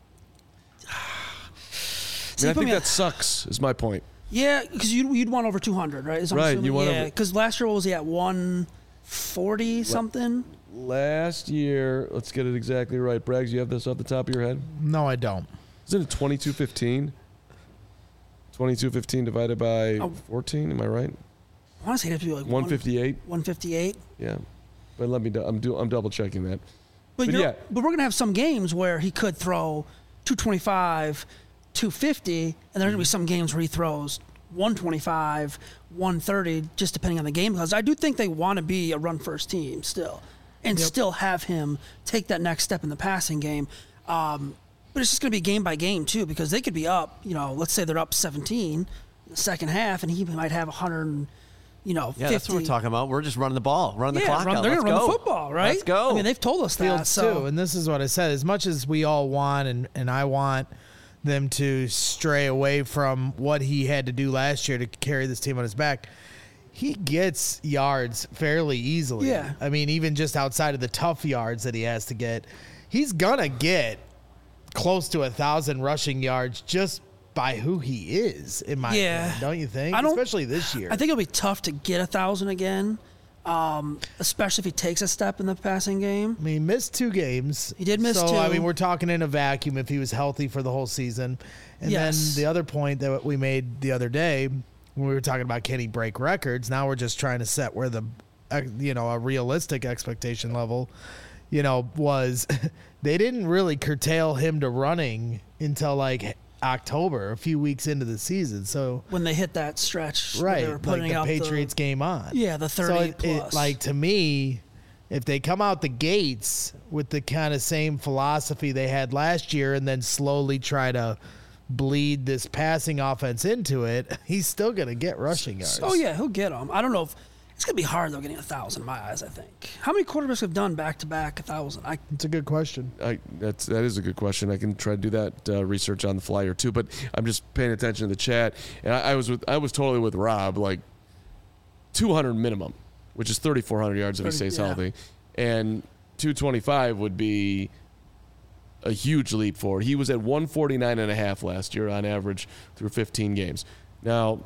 I, mean, I think that sucks. Is my point. Yeah, because you'd, you'd want over two hundred, right? Is I'm right. assuming? You want yeah, over. Because last year, what was he at? one forty something. Last year, let's get it exactly right. Braggs, you have this off the top of your head? No, I don't. Isn't it twenty-two fifteen? twenty-two fifteen divided by Oh. fourteen. Am I right? I want to say it'd be like one fifty-eight. one fifty-eight. Yeah, but let me. Do, I'm do. I'm double checking that. But, But you're, yeah. but we're gonna have some games where he could throw two twenty-five, two fifty, and there's gonna be some games where he throws one twenty-five, one thirty, just depending on the game. Because I do think they want to be a run-first team still, and Yep. still have him take that next step in the passing game. Um, but it's just gonna be game by game too, because they could be up. You know, let's say they're up seventeen in the second half, and he might have one hundred. You know, Yeah, fifty. that's what we're talking about. We're just running the ball, running the Yeah, clock run, out. they're Let's gonna run go. the football, right? Let's go. I mean, they've told us that. Fields So. too, and this is what I said. As much as we all want, and and I want them to stray away from what he had to do last year to carry this team on his back, he gets yards fairly easily. Yeah. I mean, even just outside of the tough yards that he has to get, he's gonna get close to a thousand rushing yards just by who he is, in my Yeah. opinion, don't you think? I don't- Especially this year. I think it'll be tough to get a thousand again, um, especially if he takes a step in the passing game. I mean, he missed two games. He did miss so, two. I mean, we're talking in a vacuum if he was healthy for the whole season. And Yes. then the other point that we made the other day when we were talking about can he break records, now we're just trying to set where the, uh, you know, a realistic expectation level, you know, was they didn't really curtail him to running until like October, a few weeks into the season. So When they hit that stretch, where right, they were putting like the out Patriots game on. Yeah, the So thirty it, it, plus. like to me, if they come out the gates with the kind of same philosophy they had last year, and then slowly try to bleed this passing offense into it, he's still gonna get rushing yards. Oh yeah, he'll get them. I don't know if it's gonna be hard though getting a thousand in my eyes. I think. How many quarterbacks have done back to back a thousand? I It's a good question. I, that's that is a good question. I can try to do that uh, research on the fly or two, but I'm just paying attention to the chat, and I, I was with I was totally with Rob, like two hundred minimum, which is thirty-four hundred yards if he thirty stays yeah. healthy, and two twenty-five would be a huge leap forward. He was at one forty-nine and a half last year on average through fifteen games. Now,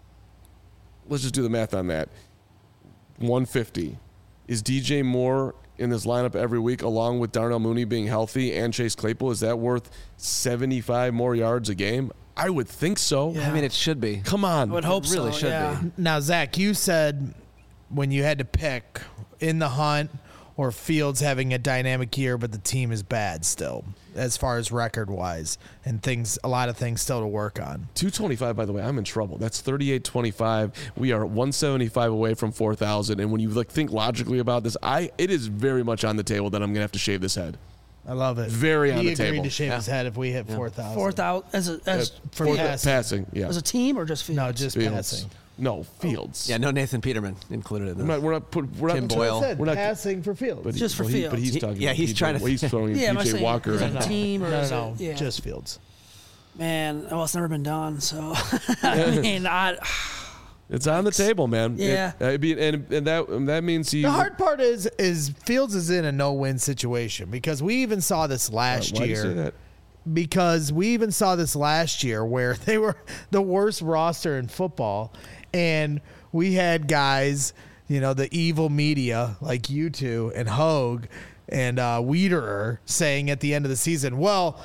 let's just do the math on that. one fifty. Is D J Moore in this lineup every week along with Darnell Mooney being healthy and Chase Claypool? Is that worth seventy-five more yards a game? I would think so. Yeah. I mean, it should be. Come on. I would hope It really so. should yeah. be. Now, Zach, you said when you had to pick in the hunt or Fields having a dynamic year, but the team is bad still, as far as record wise, and things, a lot of things still to work on. two twenty-five, by the way, I'm in trouble. That's thirty-eight twenty-five. We are one seventy-five away from four thousand. And when you like think logically about this, I it is very much on the table that I'm going to have to shave this head. I love it. Very on he the agreed table. to shave Yeah. his head if we hit four thousand. Four thousand as a as Uh, for for passing. passing, yeah. as a team or just Fields? No, just Fields. passing. No, Fields. Yeah, no Nathan Peterman included in We're this. not, we're not, put, we're Tim not Boyle. I said We're not- passing for Fields. But he- Just for well, he- But he's Fields. talking. Yeah, about he's P J trying to- well, he's throwing Yeah, am I P J saying Walker. is it and- a team or no, is no, no, it, yeah. just Fields. Man, well, it's never been done. So I mean, I It's on the table, man. Yeah. It, I mean, and and that and that means he. The hard part is is Fields is in a no-win situation because we even saw this last Why do you year. say that? Because we even saw this last year where they were the worst roster in football, and we had guys, you know, the evil media like you two and Hogue and uh, Wiederer saying at the end of the season, well,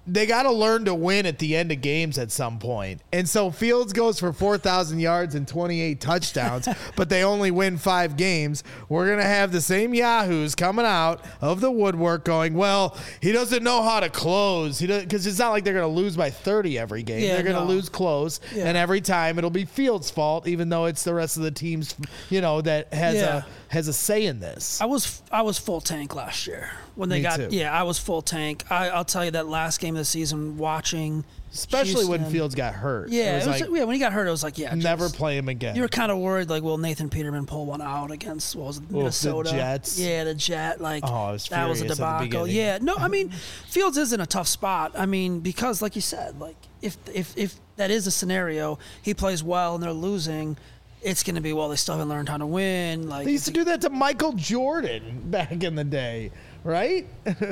they got to learn to win at the end of games at some point. And so Fields goes for four thousand yards and twenty-eight touchdowns, but they only win five games. We're going to have the same yahoos coming out of the woodwork going, well, he doesn't know how to close. He Because it's not like they're going to lose by thirty every game. Yeah, they're going to no. lose close, Yeah. and every time it'll be Fields' fault, even though it's the rest of the team's, you know, that has Yeah. a has a say in this. I was I was full tank last year when they Me got too. yeah I was full tank. I, I'll tell you that last game of the season watching, Especially when Houston- Fields got hurt. Yeah, It was it was, like, yeah. When he got hurt, it was like yeah, never just- play him again. You were kind of worried, like, will Nathan Peterman pull one out against what was it, Minnesota? Jets. Yeah, the Jet. Like, Oh, I was that was a furious at the debacle. beginning. Yeah, no, I mean, Fields is in a tough spot. I mean, because like you said, like if if if that is a scenario, he plays well and they're losing, it's going to be well. They still haven't learned how to win. Like They used to do that to Michael Jordan back in the day, right?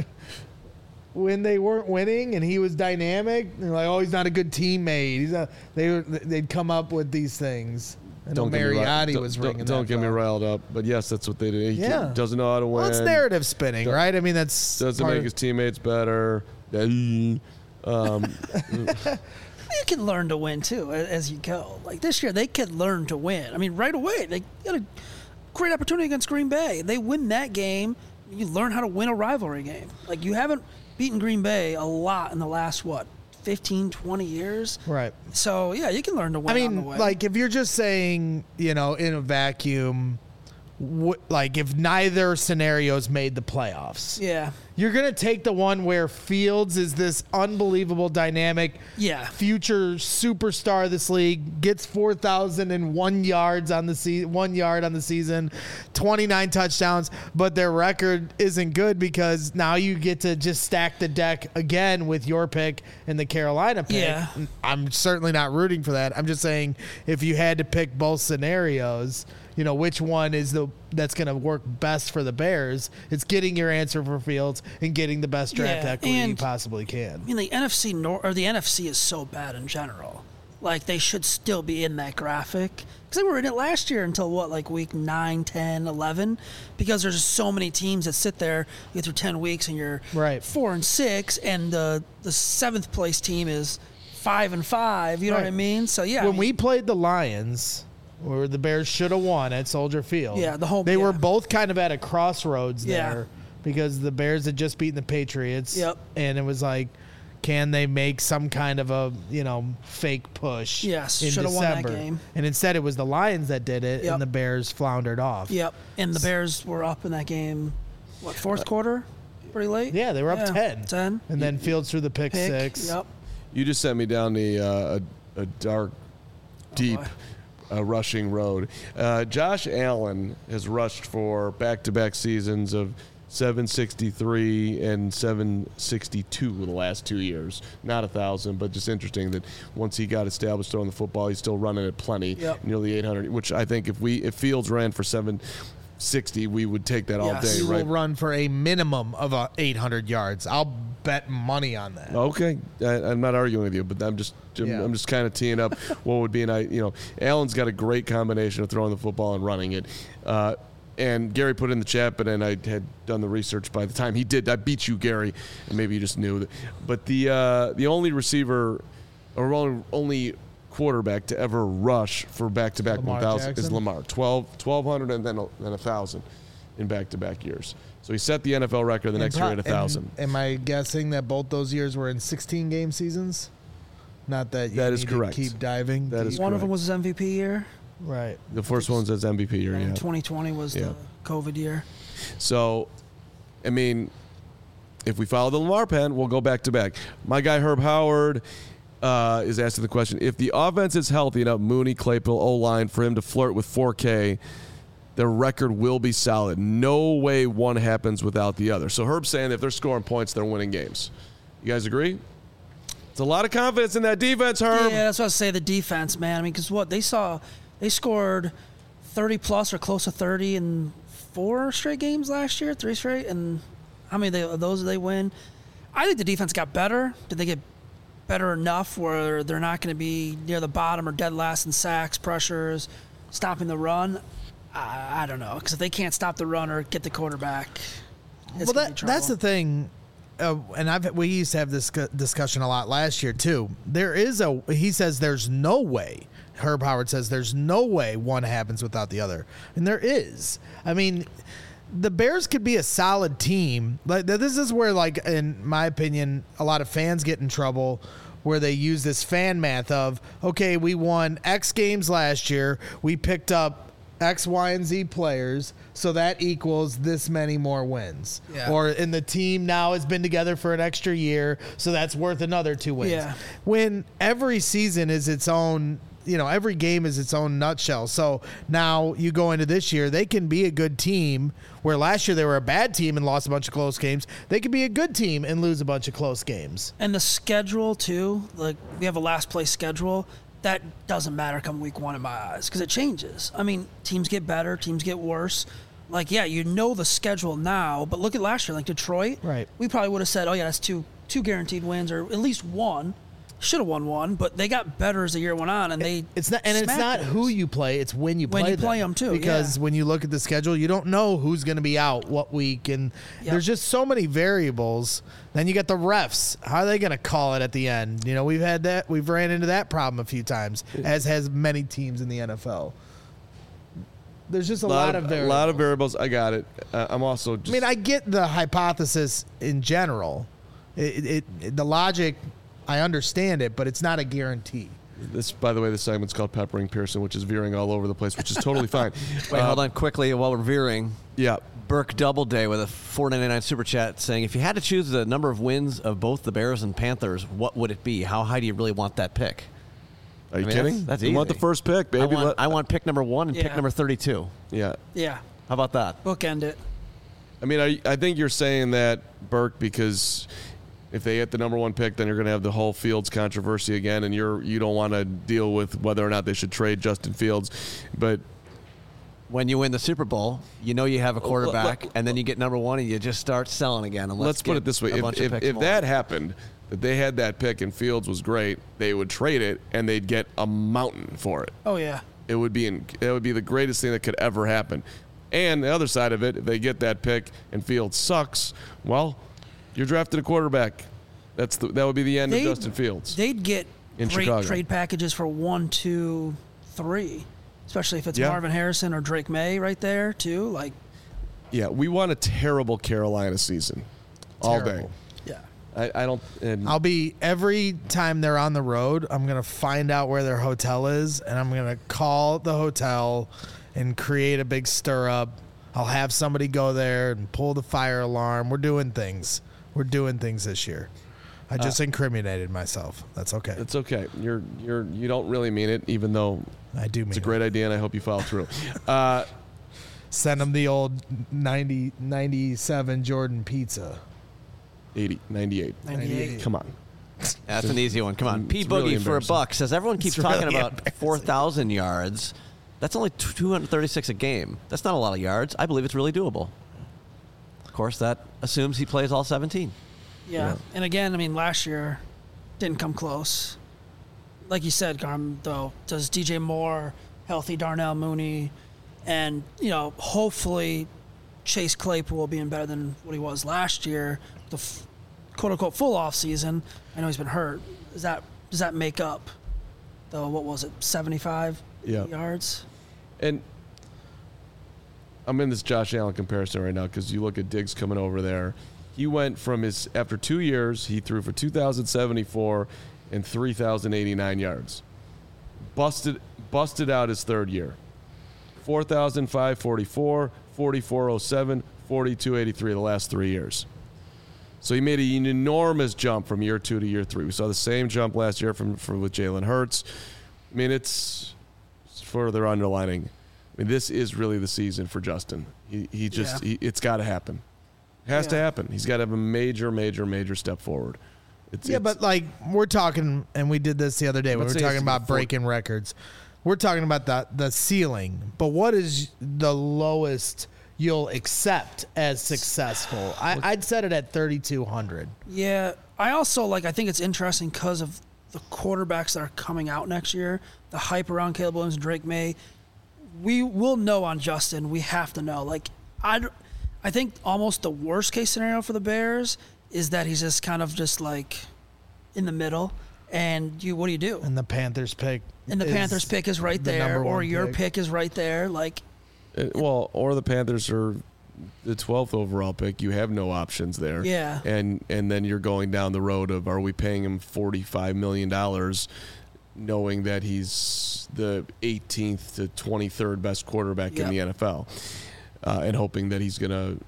When they weren't winning and he was dynamic, they're like, "Oh, he's not a good teammate." He's not. They were, they'd come up with these things. And Don't get me ri- Mariotti don't- was don't- ringing. Don't that get me bell. riled up, but yes, that's what they do. He Yeah. can't- doesn't know how to win. Well, it's narrative spinning, Do- right? I mean, that's Doesn't part make of- his teammates better. Um, you can learn to win too a- as you go. Like this year, they could learn to win. I mean, right away, they got a great opportunity against Green Bay. They win that game. You learn how to win a rivalry game. Like you haven't beaten Green Bay a lot in the last what fifteen, twenty years. right. So yeah, you can learn to win. I on the mean, way. like if you're just saying, you know, in a vacuum, wh- like if neither scenarios made the playoffs, yeah, you're gonna take the one where Fields is this unbelievable, dynamic, yeah, future superstar of this league, gets four thousand one yards on the se- one yard on the season, twenty-nine touchdowns, but their record isn't good because now you get to just stack the deck again with your pick and the Carolina pick. Yeah. I'm certainly not rooting for that. I'm just saying if you had to pick both scenarios, you know, which one is the that's going to work best for the Bears? It's getting your answer for Fields and getting the best draft Yeah, equity you and- possibly can. I mean, the N F C Nor- or the N F C is so bad in general. Like they should still be in that graphic because they were in it last year until what, like week nine, ten, eleven, because there's just so many teams that sit there, you get through ten weeks and you're Right. four and six, and the the seventh place team is five and five. You know what I Right. mean? So yeah, I When mean, we played the Lions, where the Bears should have won at Soldier Field. Yeah, the home- They were yeah. both kind of at a crossroads Yeah. there because the Bears had just beaten the Patriots. Yep. And it was like, can they make some kind of a, you know, fake push? Yes, in shoulda won that December? game. And instead it was the Lions that did it, Yep. and the Bears floundered off. Yep, and the Bears were up in that game. What fourth quarter? Pretty late. Yeah, they were up Yeah, ten. Ten. And then Fields threw the pick, Pick. six. Yep. you just sent me down the uh, a, a dark, deep, boy. uh, rushing road. Uh, Josh Allen has rushed for back-to-back seasons of seven sixty-three and seven sixty-two in the last two years. Not a thousand, but just interesting that once he got established throwing the football, he's still running at plenty, Yep. nearly eight hundred. Which I think if we if Fields ran for seven sixty, we would take that all Yes. day, He right? will run for a minimum of uh, eight hundred yards. I'll bet money on that. Okay, I, I'm not arguing with you, but I'm just I'm, Yeah. I'm just kind of teeing up what would be an I you know Allen's got a great combination of throwing the football and running it. Uh, and Gary put it in the chat, but then I had done the research by the time he did. I beat you, Gary, and maybe you just knew that. But the uh, the only receiver or only, only quarterback to ever rush for back-to-back Lamar one thousand is Jackson? Lamar. twelve, twelve hundred and then a, then one thousand in back-to-back years. So he set the N F L record the next year at one thousand. Am, am I guessing that both those years were in sixteen game seasons? Not that you That need is to correct. keep diving. That deep. is One of correct. them was his M V P year. right. The first one says M V P year, And yeah. twenty twenty was Yeah. the COVID year. So, I mean, if we follow the Lamar pen, we'll go back to back. My guy Herb Howard uh, is asking the question: if the offense is healthy enough, Mooney, Claypool, O line for him to flirt with four K, their record will be solid. No way one happens without the other. So Herb's saying if they're scoring points, they're winning games. You guys agree? It's a lot of confidence in that defense, Herb. Yeah, that's what I say. The defense, man. I mean, because what they saw, they scored thirty plus or close to thirty in four straight games last year, three straight, and how many they, of those did they win? I think the defense got better. Did they get better enough where they're not going to be near the bottom or dead last in sacks, pressures, stopping the run? I, I don't know, because if they can't stop the run or get the quarterback, it's Well, gonna be that that's the trouble. thing. uh, and I've we used to have this cu- discussion a lot last year too. There is a he says there's no way. Herb Howard says there's no way one happens without the other, and there is. I mean, the Bears could be a solid team. Like this is where, like in my opinion, a lot of fans get in trouble. Where they use this fan math of, okay, we won X games last year. We picked up X, Y, and Z players, so that equals this many more wins. Yeah. Or and the team now has been together for an extra year, so that's worth another two wins. Yeah. When every season is its own, you know, every game is its own nutshell. So now you go into this year, they can be a good team, where last year they were a bad team and lost a bunch of close games. They could be a good team and lose a bunch of close games. And the schedule, too, like we have a last place schedule. That doesn't matter come week one in my eyes because it changes. I mean, teams get better, teams get worse. Like, yeah, you know the schedule now, but look at last year, like Detroit. Right. We probably would have said, oh, yeah, that's two two guaranteed wins or at least one. Should have won one, but they got better as the year went on, and they It's not, and it's not those. who you play; it's when you When play you play them, too, Because yeah. when you look at the schedule, you don't know who's going to be out what week, and Yep. there's just so many variables. Then you got the refs; how are they going to call it at the end? You know, we've had that, we've ran into that problem a few times, as has many teams in the N F L. There's just a, A lot, lot, of of, a variables. lot of variables. I got it. Uh, I'm also just. I mean, I get the hypothesis in general. It, it, it the logic. I understand it, but it's not a guarantee. This, by the way, this segment's called Peppering Pearson, which is veering all over the place, which is totally fine. Wait, Uh, hold on quickly while we're veering. Yeah. Burke Doubleday with a four ninety-nine super chat saying, if you had to choose the number of wins of both the Bears and Panthers, what would it be? How high do you really want that pick? Are you I mean, kidding? that's- that's you want the easy. first pick, baby. I want, Let- I want pick number one and pick Yeah. number thirty-two. yeah. Yeah, How about that? bookend it. I mean, I, I think you're saying that, Burke, because if they get the number one pick, then you're going to have the whole Fields controversy again, and you're you don't want to deal with whether or not they should trade Justin Fields. But When you win the Super Bowl, you know you have a quarterback, let- and then you get number one, and you just start selling again. And let's, let's put get it this way: a if, bunch of if, picks if more. that happened, that they had that pick and Fields was great, they would trade it and they'd get a mountain for it. Oh, yeah. It would be in, it would be the greatest thing that could ever happen. And the other side of it, if they get that pick and Fields sucks, well, you're drafting a quarterback. That's the, that would be the end They'd- of Justin Fields. They'd get In great Chicago. trade packages for one, two, three, especially if it's Yeah. Marvin Harrison or Drake May right there, too. Like, Yeah, we want a terrible Carolina season all day. Terrible. yeah. I, I don't. And I'll be every time they're on the road, I'm going to find out where their hotel is, and I'm going to call the hotel and create a big stir up. I'll have somebody go there and pull the fire alarm. We're doing things. We're doing things this year. I just incriminated myself. That's okay. it's okay. You're you're you don't really mean it, even though I do mean it's a it. great idea, and I hope you follow through. Uh, Send them the old ninety, ninety-seven Jordan pizza. eighty, ninety-eight. ninety-eight. Come on. That's an easy one. Come on. P. It's Boogie really for a embarrassing. buck says everyone keeps It's talking really about embarrassing. four thousand yards. That's only two hundred thirty-six a game. That's not a lot of yards. I believe it's really doable. Of course, that assumes he plays all seventeen. Yeah. And again, I mean, last year didn't come close. Like you said, Garm, though, does D J Moore, healthy Darnell Mooney, and, you know, hopefully Chase Claypool being better than what he was last year, the f- quote unquote full off season. I know he's been hurt. Does that does that make up the, what was it, seventy-five Yeah. yards? And I'm in this Josh Allen comparison right now because you look at Diggs coming over there. He went from his after two years, he threw for two thousand seventy-four and three thousand eighty-nine yards. Busted busted out his third year. four thousand five hundred forty-four, forty-four oh seven, forty-two eighty-three the last three years. So he made an enormous jump from year two to year three. We saw the same jump last year from, from with Jalen Hurts. I mean, it's, it's further underlining. I mean, this is really the season for Justin. He he just Yeah. he, it's got to happen. It has to Yeah. happen. He's got to have a major, major, major step forward. It's, Yeah, it's- but like we're talking, and we did this the other day. We Let's were say it's talking about four- breaking records. We're talking about the the ceiling, but what is the lowest you'll accept as successful? I, I'd set it at thirty-two hundred. Yeah, I also like. I think it's interesting because of the quarterbacks that are coming out next year, the hype around Caleb Williams and Drake May. We will know on Justin. We have to know. Like, I, I think almost the worst case scenario for the Bears is that he's just kind of just like in the middle. And you, what do you do? And the Panthers pick. And the is Panthers pick is right the there, number or one your pick. pick is right there. Like, Uh, well, or the Panthers are the twelfth overall pick. You have no options there. Yeah. And and then you're going down the road of, are we paying him forty-five million dollars knowing that he's the eighteenth to twenty-third best quarterback Yep. in the N F L, uh, and hoping that he's going to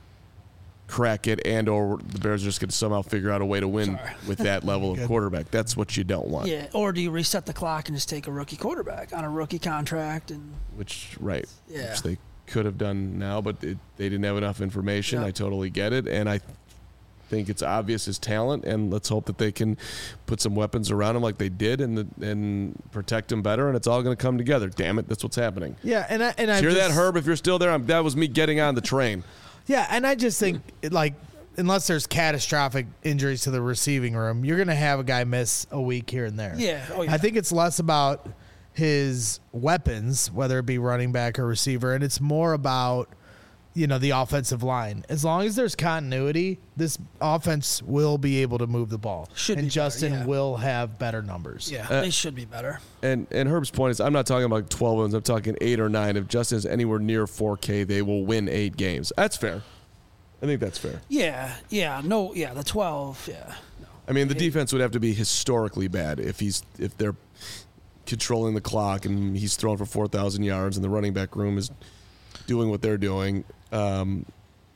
crack it, and or the Bears are just going to somehow figure out a way to win Sorry. with that level of Good. quarterback. That's what you don't want. yeah. Or do you reset the clock and just take a rookie quarterback on a rookie contract? And Which, right, Yeah. which they could have done now, but it, they didn't have enough information. Yeah. I totally get it, and I think it's obvious his talent, and let's hope that they can put some weapons around him like they did, and the, and protect him better, and it's all going to come together. Damn it, that's what's happening. Yeah, and I and I Hear just, that, Herb? If you're still there, I'm, that was me getting on the train. Yeah, and I just think like unless there's catastrophic injuries to the receiving room, you're going to have a guy miss a week here and there. Yeah. Oh, yeah. I think it's less about his weapons, whether it be running back or receiver, and it's more about, you know, the offensive line. As long as there's continuity, this offense will be able to move the ball. Should and be better, Justin yeah. will have better numbers. yeah, Uh, they should be better. And and Herb's point is, I'm not talking about twelve wins. I'm talking eight or nine. If Justin's anywhere near four K, they will win eight games. That's fair. I think that's fair. Yeah. Yeah. No. Yeah. The twelve. Yeah. No. I mean, the defense would have to be historically bad if he's if they're controlling the clock and he's throwing for four thousand yards and the running back room is doing what they're doing. Um,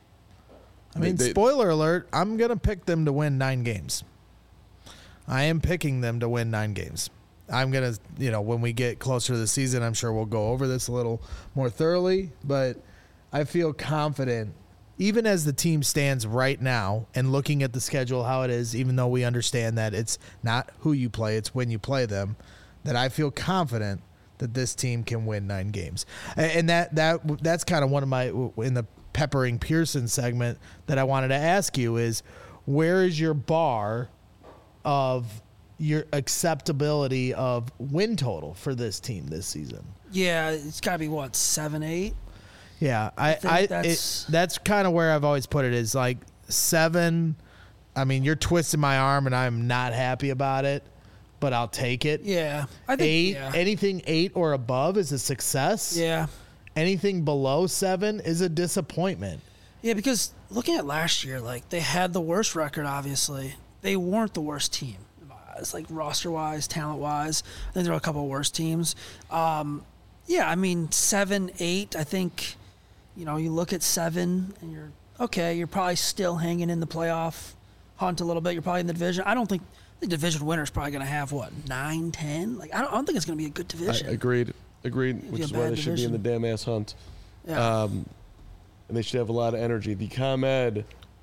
I mean, they- spoiler alert, I'm going to pick them to win nine games. I am picking them to win nine games. I'm going to, you know, when we get closer to the season, I'm sure we'll go over this a little more thoroughly, but I feel confident, even as the team stands right now and looking at the schedule, how it is, even though we understand that it's not who you play, it's when you play them, that I feel confident that this team can win nine games. And that that that's kind of one of my, in the Peppering Pearson segment that I wanted to ask you is, where is your bar of your acceptability of win total for this team this season? Yeah. It's got to be what, seven, eight. Yeah, I, think I, that's- it, that's kind of where I've always put it, is like seven. I mean, you're twisting my arm and I'm not happy about it, but I'll take it. Yeah. I think. Eight, Yeah. anything eight or above is a success. yeah. Anything below seven is a disappointment. Yeah. Because looking at last year, like they had the worst record. Obviously, they weren't the worst team. It's like roster wise, talent wise. I think there were a couple of worse teams. Um, yeah. I mean, seven, eight. I think. You know, you look at seven and you're okay. You're probably still hanging in the playoff hunt a little bit. You're probably in the division. I don't think the division winner is probably going to have what, nine, ten. Like I don't, I don't think it's going to be a good I, division. agreed, agreed. be Which a is why they bad should be in the division. damn ass hunt. yeah. Um, and they should have a lot of energy. The ComEd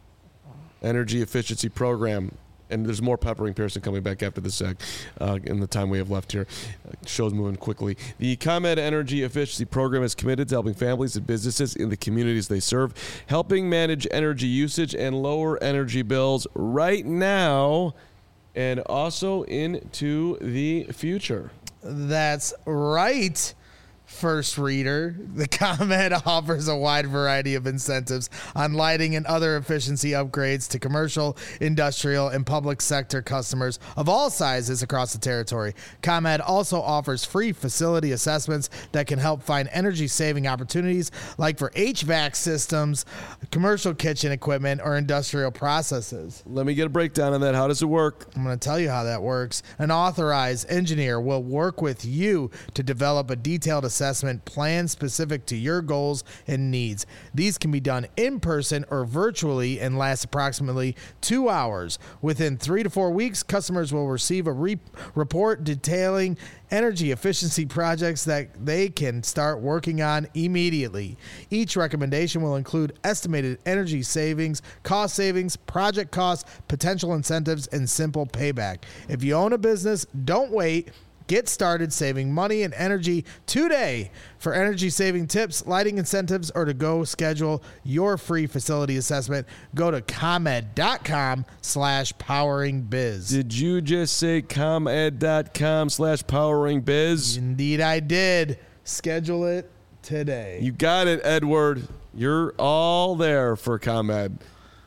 Energy Efficiency Program, and there's more Peppering Pearson coming back after this sec, uh, in the time we have left here. Uh, show's moving quickly. The ComEd Energy Efficiency Program is committed to helping families and businesses in the communities they serve, helping manage energy usage and lower energy bills right now and also into the future. That's right. First reader, the ComEd offers a wide variety of incentives on lighting and other efficiency upgrades to commercial, industrial, and public sector customers of all sizes across the territory. ComEd also offers free facility assessments that can help find energy-saving opportunities like for H V A C systems, commercial kitchen equipment, or industrial processes. Let me get a breakdown on that. How does it work? I'm going to tell you how that works. An authorized engineer will work with you to develop a detailed assessment plan specific to your goals and needs. These can be done in person or virtually and last approximately two hours. Within three to four weeks, customers will receive a re- report detailing energy efficiency projects that they can start working on immediately. Each recommendation will include estimated energy savings, cost savings, project costs, potential incentives, and simple payback. If you own a business, don't wait. Get started saving money and energy today. For energy saving tips, lighting incentives, or to go schedule your free facility assessment, go to ComEd.com slash powering biz. Did you just say ComEd.com slash powering biz? Indeed, I did. Schedule it today. You got it, Edward. You're all there for ComEd.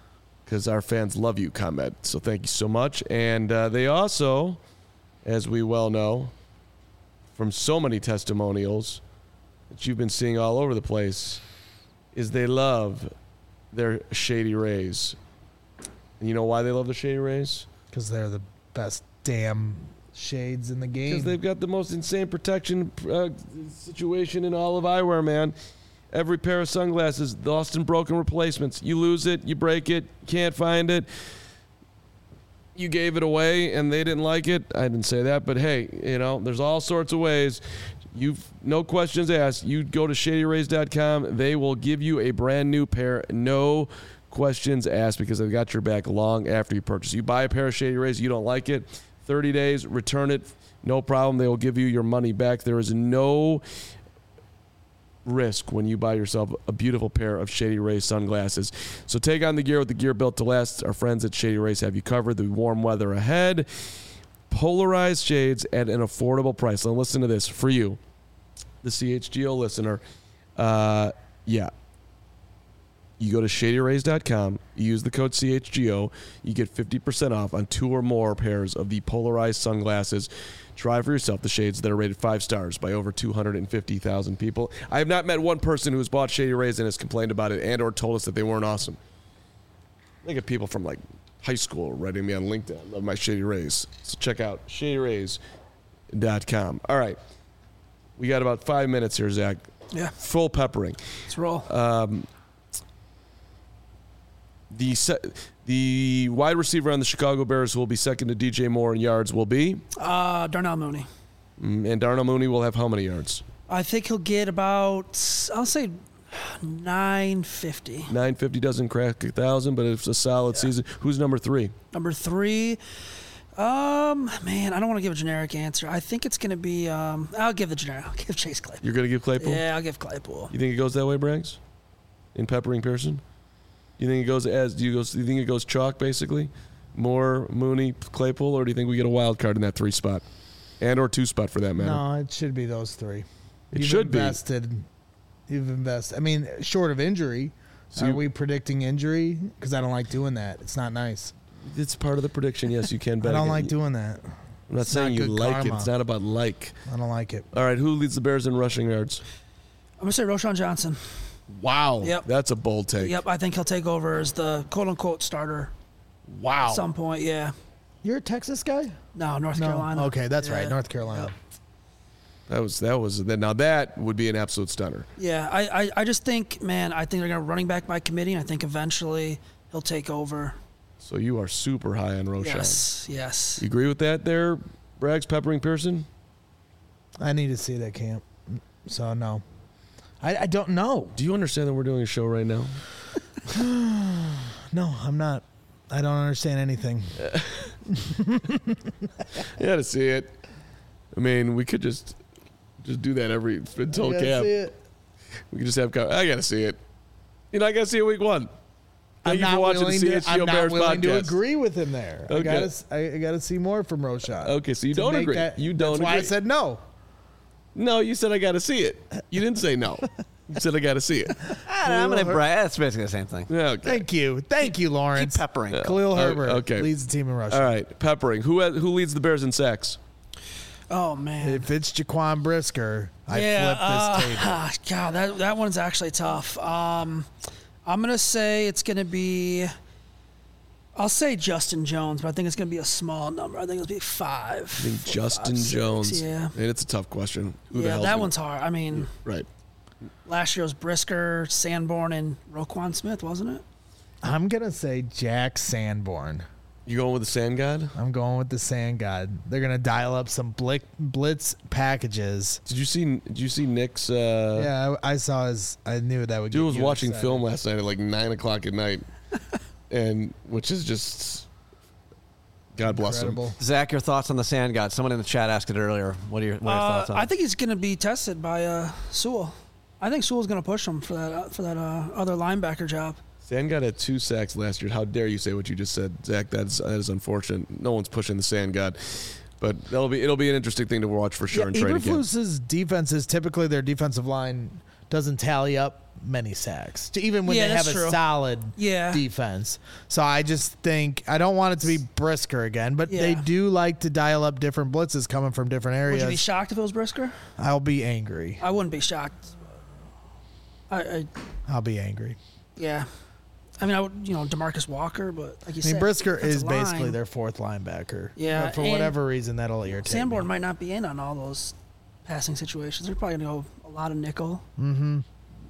because our fans love you, ComEd. So thank you so much. And uh, they also, as we well know, from so many testimonials that you've been seeing all over the place, is they love their Shady Rays. And you know why they love the Shady Rays? Because they're the best damn shades in the game. Because they've got the most insane protection uh, situation in all of eyewear, man. Every pair of sunglasses, lost and broken replacements. You lose it, you break it, can't find it. You gave it away and they didn't like it. I didn't say that, but hey, you know, there's all sorts of ways. You've no questions asked. You go to shady rays dot com. They will give you a brand new pair. No questions asked, because they've got your back long after you purchase. You buy a pair of Shady Rays, you don't like it, thirty days, return it, no problem. They will give you your money back. There is no risk when you buy yourself a beautiful pair of Shady Rays sunglasses. So take on the gear with the gear built to last. Our friends at Shady Rays have you covered. The warm weather ahead. Polarized shades at an affordable price. Now listen to this for you, the C H G O listener. Uh, yeah. You go to shady rays dot com, you use the code C H G O, you get fifty percent off on two or more pairs of the polarized sunglasses. Try for yourself the shades that are rated five stars by over two hundred fifty thousand people. I have not met one person who has bought Shady Rays and has complained about it and or told us that they weren't awesome. I think of people from like high school writing me on LinkedIn. I love my Shady Rays. So check out shady rays dot com. All right. We got about five minutes here, Zach. Yeah. Full peppering. Let's roll. Um, the se- the wide receiver on the Chicago Bears who will be second to D J Moore in yards will be? Uh, Darnell Mooney. Mm, and Darnell Mooney will have how many yards? I think he'll get about, I'll say nine fifty. nine fifty doesn't crack one thousand, but it's a solid yeah. season. Who's number three? Number three, um, man, I don't want to give a generic answer. I think it's going to be, um, I'll give the generic. I'll give Chase Claypool. You're going to give Claypool? Yeah, I'll give Claypool. You think it goes that way, Braggs? In peppering Pearson? You think it goes as do you go? Do you think it goes chalk basically? More Mooney, Claypool, or do you think we get a wild card in that three spot, and or two spot for that matter? No, it should be those three. It you've should invested, be. You've invested. I mean, short of injury. So are you, we predicting injury? Because I don't like doing that. It's not nice. It's part of the prediction. Yes, you can bet. I don't like it. doing that. I'm not it's saying not you like karma. it. It's not about like. I don't like it. All right, who leads the Bears in rushing yards? I'm gonna say Roschon Johnson. Wow. Yep. That's a bold take. Yep, I think he'll take over as the quote-unquote starter. Wow. At some point, yeah. You're a Texas guy? No, North no. Carolina. Okay, that's yeah. right, North Carolina. Yep. That was that was now that would be an absolute stunner. Yeah, I, I, I just think, man, I think they're gonna running back by committee, and I think eventually he'll take over. So you are super high on Roschon. Yes, yes. You agree with that there, Braggs, peppering Pearson? I need to see that camp. So no. I, I don't know. Do you understand that we're doing a show right now? No, I'm not. I don't understand anything. You got to see it. I mean, we could just just do that every until camp. See it. We could just have. I got to see it. You know, I got to see it week one. Thank I'm you for not watching willing, the to, C H G O I'm not Bears willing to podcast. agree with him there. Okay. I gotta, I, I gotta see more from Roschon. Okay, so you to don't make agree. That, You don't That's why I agree. said no. No, you said I got to see it. You didn't say no. You said I got to see it. I'm going to brag. That's basically the same thing. Yeah, okay. Thank you. Thank you, Lawrence. Keep peppering. Khalil Herbert okay. leads the team in rushing. All right, peppering. Who has, who leads the Bears in sacks? Oh man. If it's Jaquan Brisker, I yeah, flip this uh, table. God, that that one's actually tough. Um, I'm gonna say it's gonna be. I'll say Justin Jones, but I think it's gonna be a small number. I think it'll be five. I think four, Justin five, six, Jones. Yeah. And it's a tough question. Who the Yeah, hell's that gonna- one's hard. I mean, Right. last year was Brisker, Sanborn, and Roquan Smith, wasn't it? I'm gonna say Jack Sanborn. You going with the Sand God? I'm going with the Sand God. They're gonna dial up some blick, blitz packages. Did you see? Did you see Nick's? Uh, Yeah, I, I saw his. I knew that would. Dude get was you watching excited. film last night at like nine o'clock at night, and which is just, God bless him. Incredible. Zach, your thoughts on the Sand God? Someone in the chat asked it earlier. What are your, what are your Uh, thoughts on I it? think he's going to be tested by uh, Sewell. I think Sewell's going to push him for that uh, for that uh, other linebacker job. Sand God had two sacks last year. How dare you say what you just said, Zach? That's that is unfortunate. No one's pushing the Sand God, but that'll be it'll be an interesting thing to watch for sure Yeah, in training camp. Eberflus's defenses typically their defensive line doesn't tally up many sacks, to even when Yeah, they have that's a true. solid Yeah. defense. So I just think I don't want it to be Brisker again, but they Yeah. do like to dial up different blitzes coming from different Would areas. you be shocked if it was Brisker? I'll be angry. I wouldn't be shocked. I, I I'll be angry. yeah. I mean, I would, you know, DeMarcus Walker, but like you I mean, said, Brisker defensive is basically line, their fourth linebacker. Yeah, But for and whatever reason, that'll irritate Sanborn me. might not be in on all those passing situations. They're probably going to go a lot of nickel. Mm-hmm.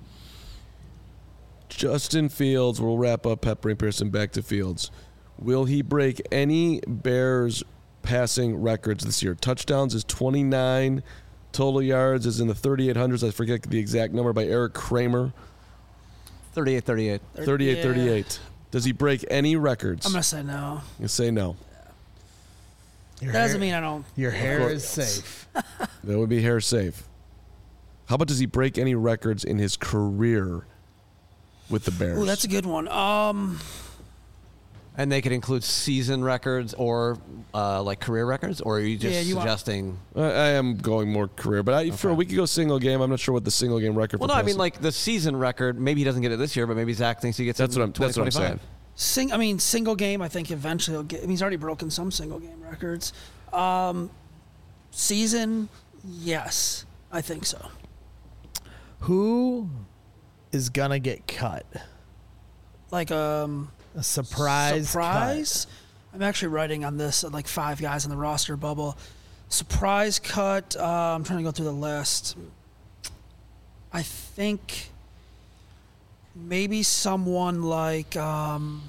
Justin Fields, we'll wrap up Pepper and Pearson, back to Fields. Will he break any Bears passing records this year? Touchdowns is twenty-nine. Total yards is in the thirty-eight hundreds. I forget the exact number by Eric Kramer. thirty-eight thirty-eight. thirty-eight Yeah. thirty-eight. Does he break any records? I'm going to say no. You say no. Your That doesn't hair, mean I don't. your hair course. is safe. That would be hair safe. How about does he break any records in his career with the Bears? Oh, that's a good one. Um, And they could include season records or uh, like career records, or are you just Yeah, you want- suggesting? I, I am going more career, but I, for a Okay. week ago single game, I'm not sure what the single game record. Well, for no, I mean passing- like the season record. Maybe he doesn't get it this year, but maybe Zach thinks he gets That's it. what in I'm- that's what I'm 2025. saying. sing. I mean, single game. I think eventually he'll get. I mean, he's already broken some single game records. Um, season, yes, I think so. Who is gonna get cut? Like um, A surprise. surprise. I'm actually writing on this uh, like five guys in the roster bubble. Surprise cut. Uh, I'm trying to go through the list. I think maybe someone like um,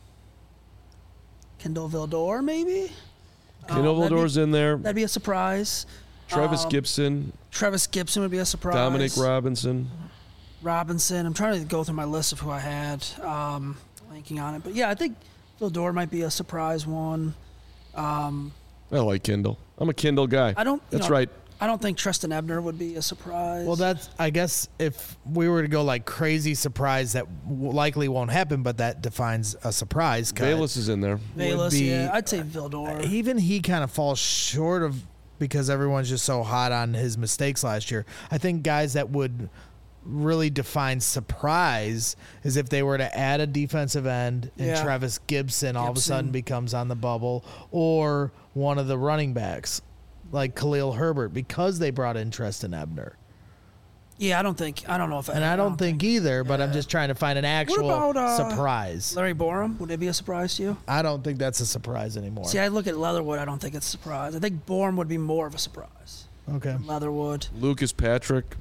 Kendall Vildor, maybe. Kendall Um, that'd be- Vildor's in there. That'd be a surprise. Travis um, Gibson, Travis Gibson would be a surprise. Dominic Robinson. Robinson. I'm trying to go through my list of who I had um, linking on it, but yeah, I think Vildor might be a surprise one. Um, I like Kendall. I'm a Kendall guy. I don't. you That's know, right. I don't think Tristan Ebner would be a surprise. Well, that's I guess if we were to go like crazy surprise, that w- likely won't happen, but that defines a surprise cut. Bayless is in there. Bayless. be- Yeah, I'd say Vildor. Even he kind of falls short of because everyone's just so hot on his mistakes last year. I think guys that would really define surprise is if they were to add a defensive end and Yeah. Travis Gibson all of a Gibson. sudden becomes on the bubble, or one of the running backs like Khalil Herbert because they brought in Tristan Ebner. Yeah, I don't think. I don't know if. And I don't think either, but I'm just trying to find an actual about, uh, surprise. Larry Borum, would it be a surprise to you? I don't think that's a surprise anymore. See, I look at Leatherwood. I don't think it's a surprise. I think Borum would be more of a surprise. Okay. Leatherwood. Lucas Patrick.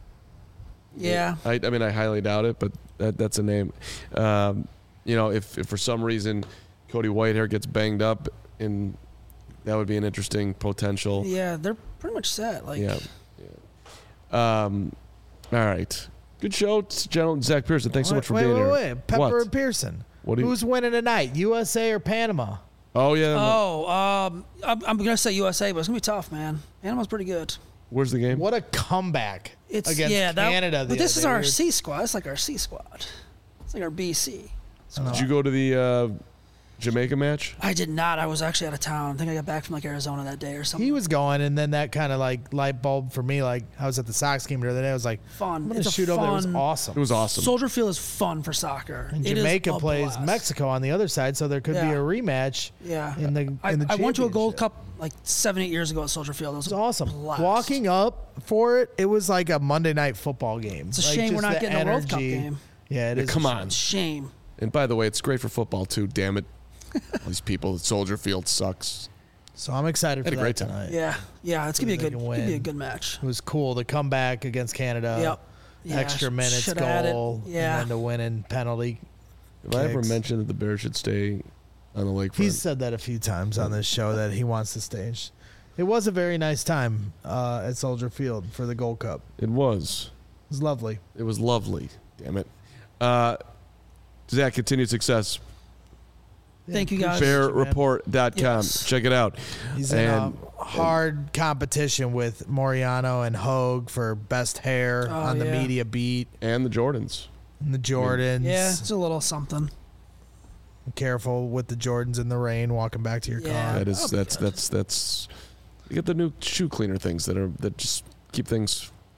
Yeah. I, I mean, I highly doubt it, but that, that's a name. Um, you know, if, if for some reason Cody Whitehair gets banged up, in that would be an interesting potential. Yeah, they're pretty much set. Like, Yeah. yeah. Um, all right. Good show, General Zach Pearson. Thanks so much for wait, being wait, here. Wait, wait. Pepper What? and Pearson. What do you? Who's winning tonight, U S A or Panama? Oh yeah. Oh, um, I'm, I'm gonna say U S A, but it's gonna be tough, man. Panama's pretty good. Where's the game? What a comeback It's against yeah, that, Canada. the But this other is day. our We were- C squad. It's like our C squad. It's like our B C. Did you go to the uh, Jamaica match? I did not. I was actually out of town. I think I got back from like Arizona that day or something. He was going, and then that kind of like light bulb for me. Like I was at the Sox game the other day. I was like, fun. I'm gonna It's a shoot over there. It was fun- awesome. It was awesome. Soldier Field is fun for soccer. And It is Jamaica a plays blast. Mexico on the other side, so there could be Yeah. a rematch. Yeah. In the I, in the I went to a Gold championship. Cup like seven, eight years ago at Soldier Field. It was, It was awesome. Blast. Walking up for it, it was like a Monday night football game. It's a Like, shame we're just not the getting a World Cup energy. game. Yeah, it Yeah, is. come a on. Shame. And by the way, it's great for football too. Damn it, all these people at Soldier Field sucks. So I'm excited for Had a that great time. tonight. Yeah. Yeah. It's gonna be a They good. can Gonna be a win. good match. It was cool to come back against Canada. Yep. Yeah, Extra sh- minutes shoulda had it. goal. Yeah. And then to win in penalty. Have I ever Kicks. mentioned that the Bears should stay on the lakefront? He's said that a few times on this show that he wants to stage. It was a very nice time uh, at Soldier Field for the Gold Cup. It was. It was lovely. It was lovely. Damn it. Uh, Zach, continued success. Thank you, guys. appreciate bear you, man. report dot com. Yes. Check it out. He's in And- a hard competition with Moriano and Hogue for best hair Oh, on the yeah. media beat. And the Jordans. And the Jordans. Yeah, it's a little something. Careful with the Jordans in the rain walking back to your Yeah. car. That is that'll be that's good. that's that's you get the new shoe cleaner things that are that just keep things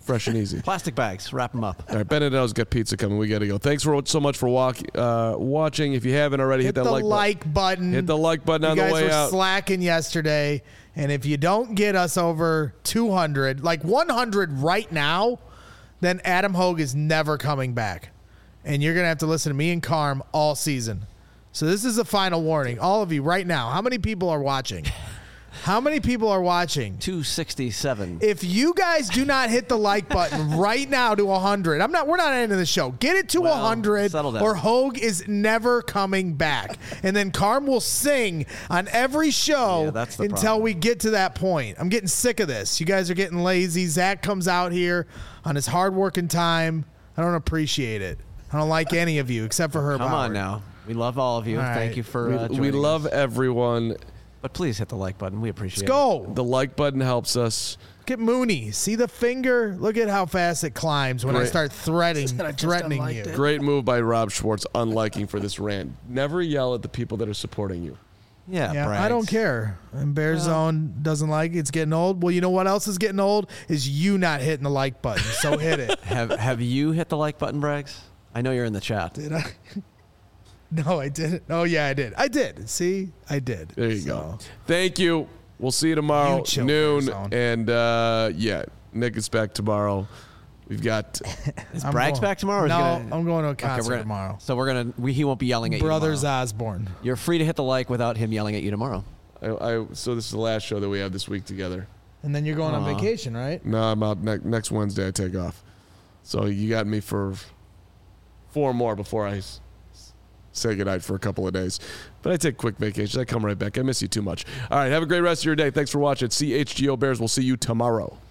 fresh and easy. Plastic bags, wrap them up. All right, Benedetto's got pizza coming. We got to go. Thanks for so much for walk, uh, watching. If you haven't already, hit, Hit that the like, like button. button. Hit the like button You on the guys way were out. slacking yesterday, and if you don't get us over two hundred, like one hundred right now, then Adam Hogue is never coming back, and you're gonna have to listen to me and Carm all season. So this is a final warning, all of you right now. How many people are watching? How many people are watching? two sixty-seven. If you guys do not hit the like button right now to one hundred, I'm not. We're not ending the show. Get it to Well, one hundred, settle down. or Hogue is never coming back. And then Carm will sing on every show Yeah, that's the until problem. we get to that point. I'm getting sick of this. You guys are getting lazy. Zach comes out here on his hard working time. I don't appreciate it. I don't like any of you except for Herb Come Howard. on now. We love all of you. All Thank right. you for We, uh, we joining love us. everyone. But please hit the like button. We appreciate Let's go. The like button helps us. Look at Mooney. See the finger? Look at how fast it climbs when I Great. start threatening, Said I just threatening unliked you. it. Great move by Rob Schwartz, unliking for this rant. Never yell at the people that are supporting you. it. Yeah, Yeah, Brags. I don't care. And Bear Zone doesn't like it. It's getting old. Well, you know what else is getting old? Is you not hitting the like button. So hit it. Have Have you hit the like button, Braggs? I know you're in the chat. Did I? No, I didn't. Oh, yeah, I did. I did. See? I did. There you So, go. Thank you. We'll see you tomorrow, You chill, noon. Bear Zone. And uh, yeah, Nick is back tomorrow. We've got Is I'm Braggs going- back tomorrow? Or is No, he gonna, I'm going to a Okay, concert we're gonna, tomorrow. So we're gonna. We, he won't be yelling at Brothers you tomorrow. Osborne. You're free to hit the like without him yelling at you tomorrow. I, I. So this is the last show that we have this week together. And then you're going on Aw. vacation, right? No, I'm out ne- next Wednesday. I take off. So you got me for four more before I s- say goodnight for a couple of days. But I take quick vacations. I come right back. I miss you too much. All right. Have a great rest of your day. Thanks for watching. C H G O Bears. We'll see you tomorrow.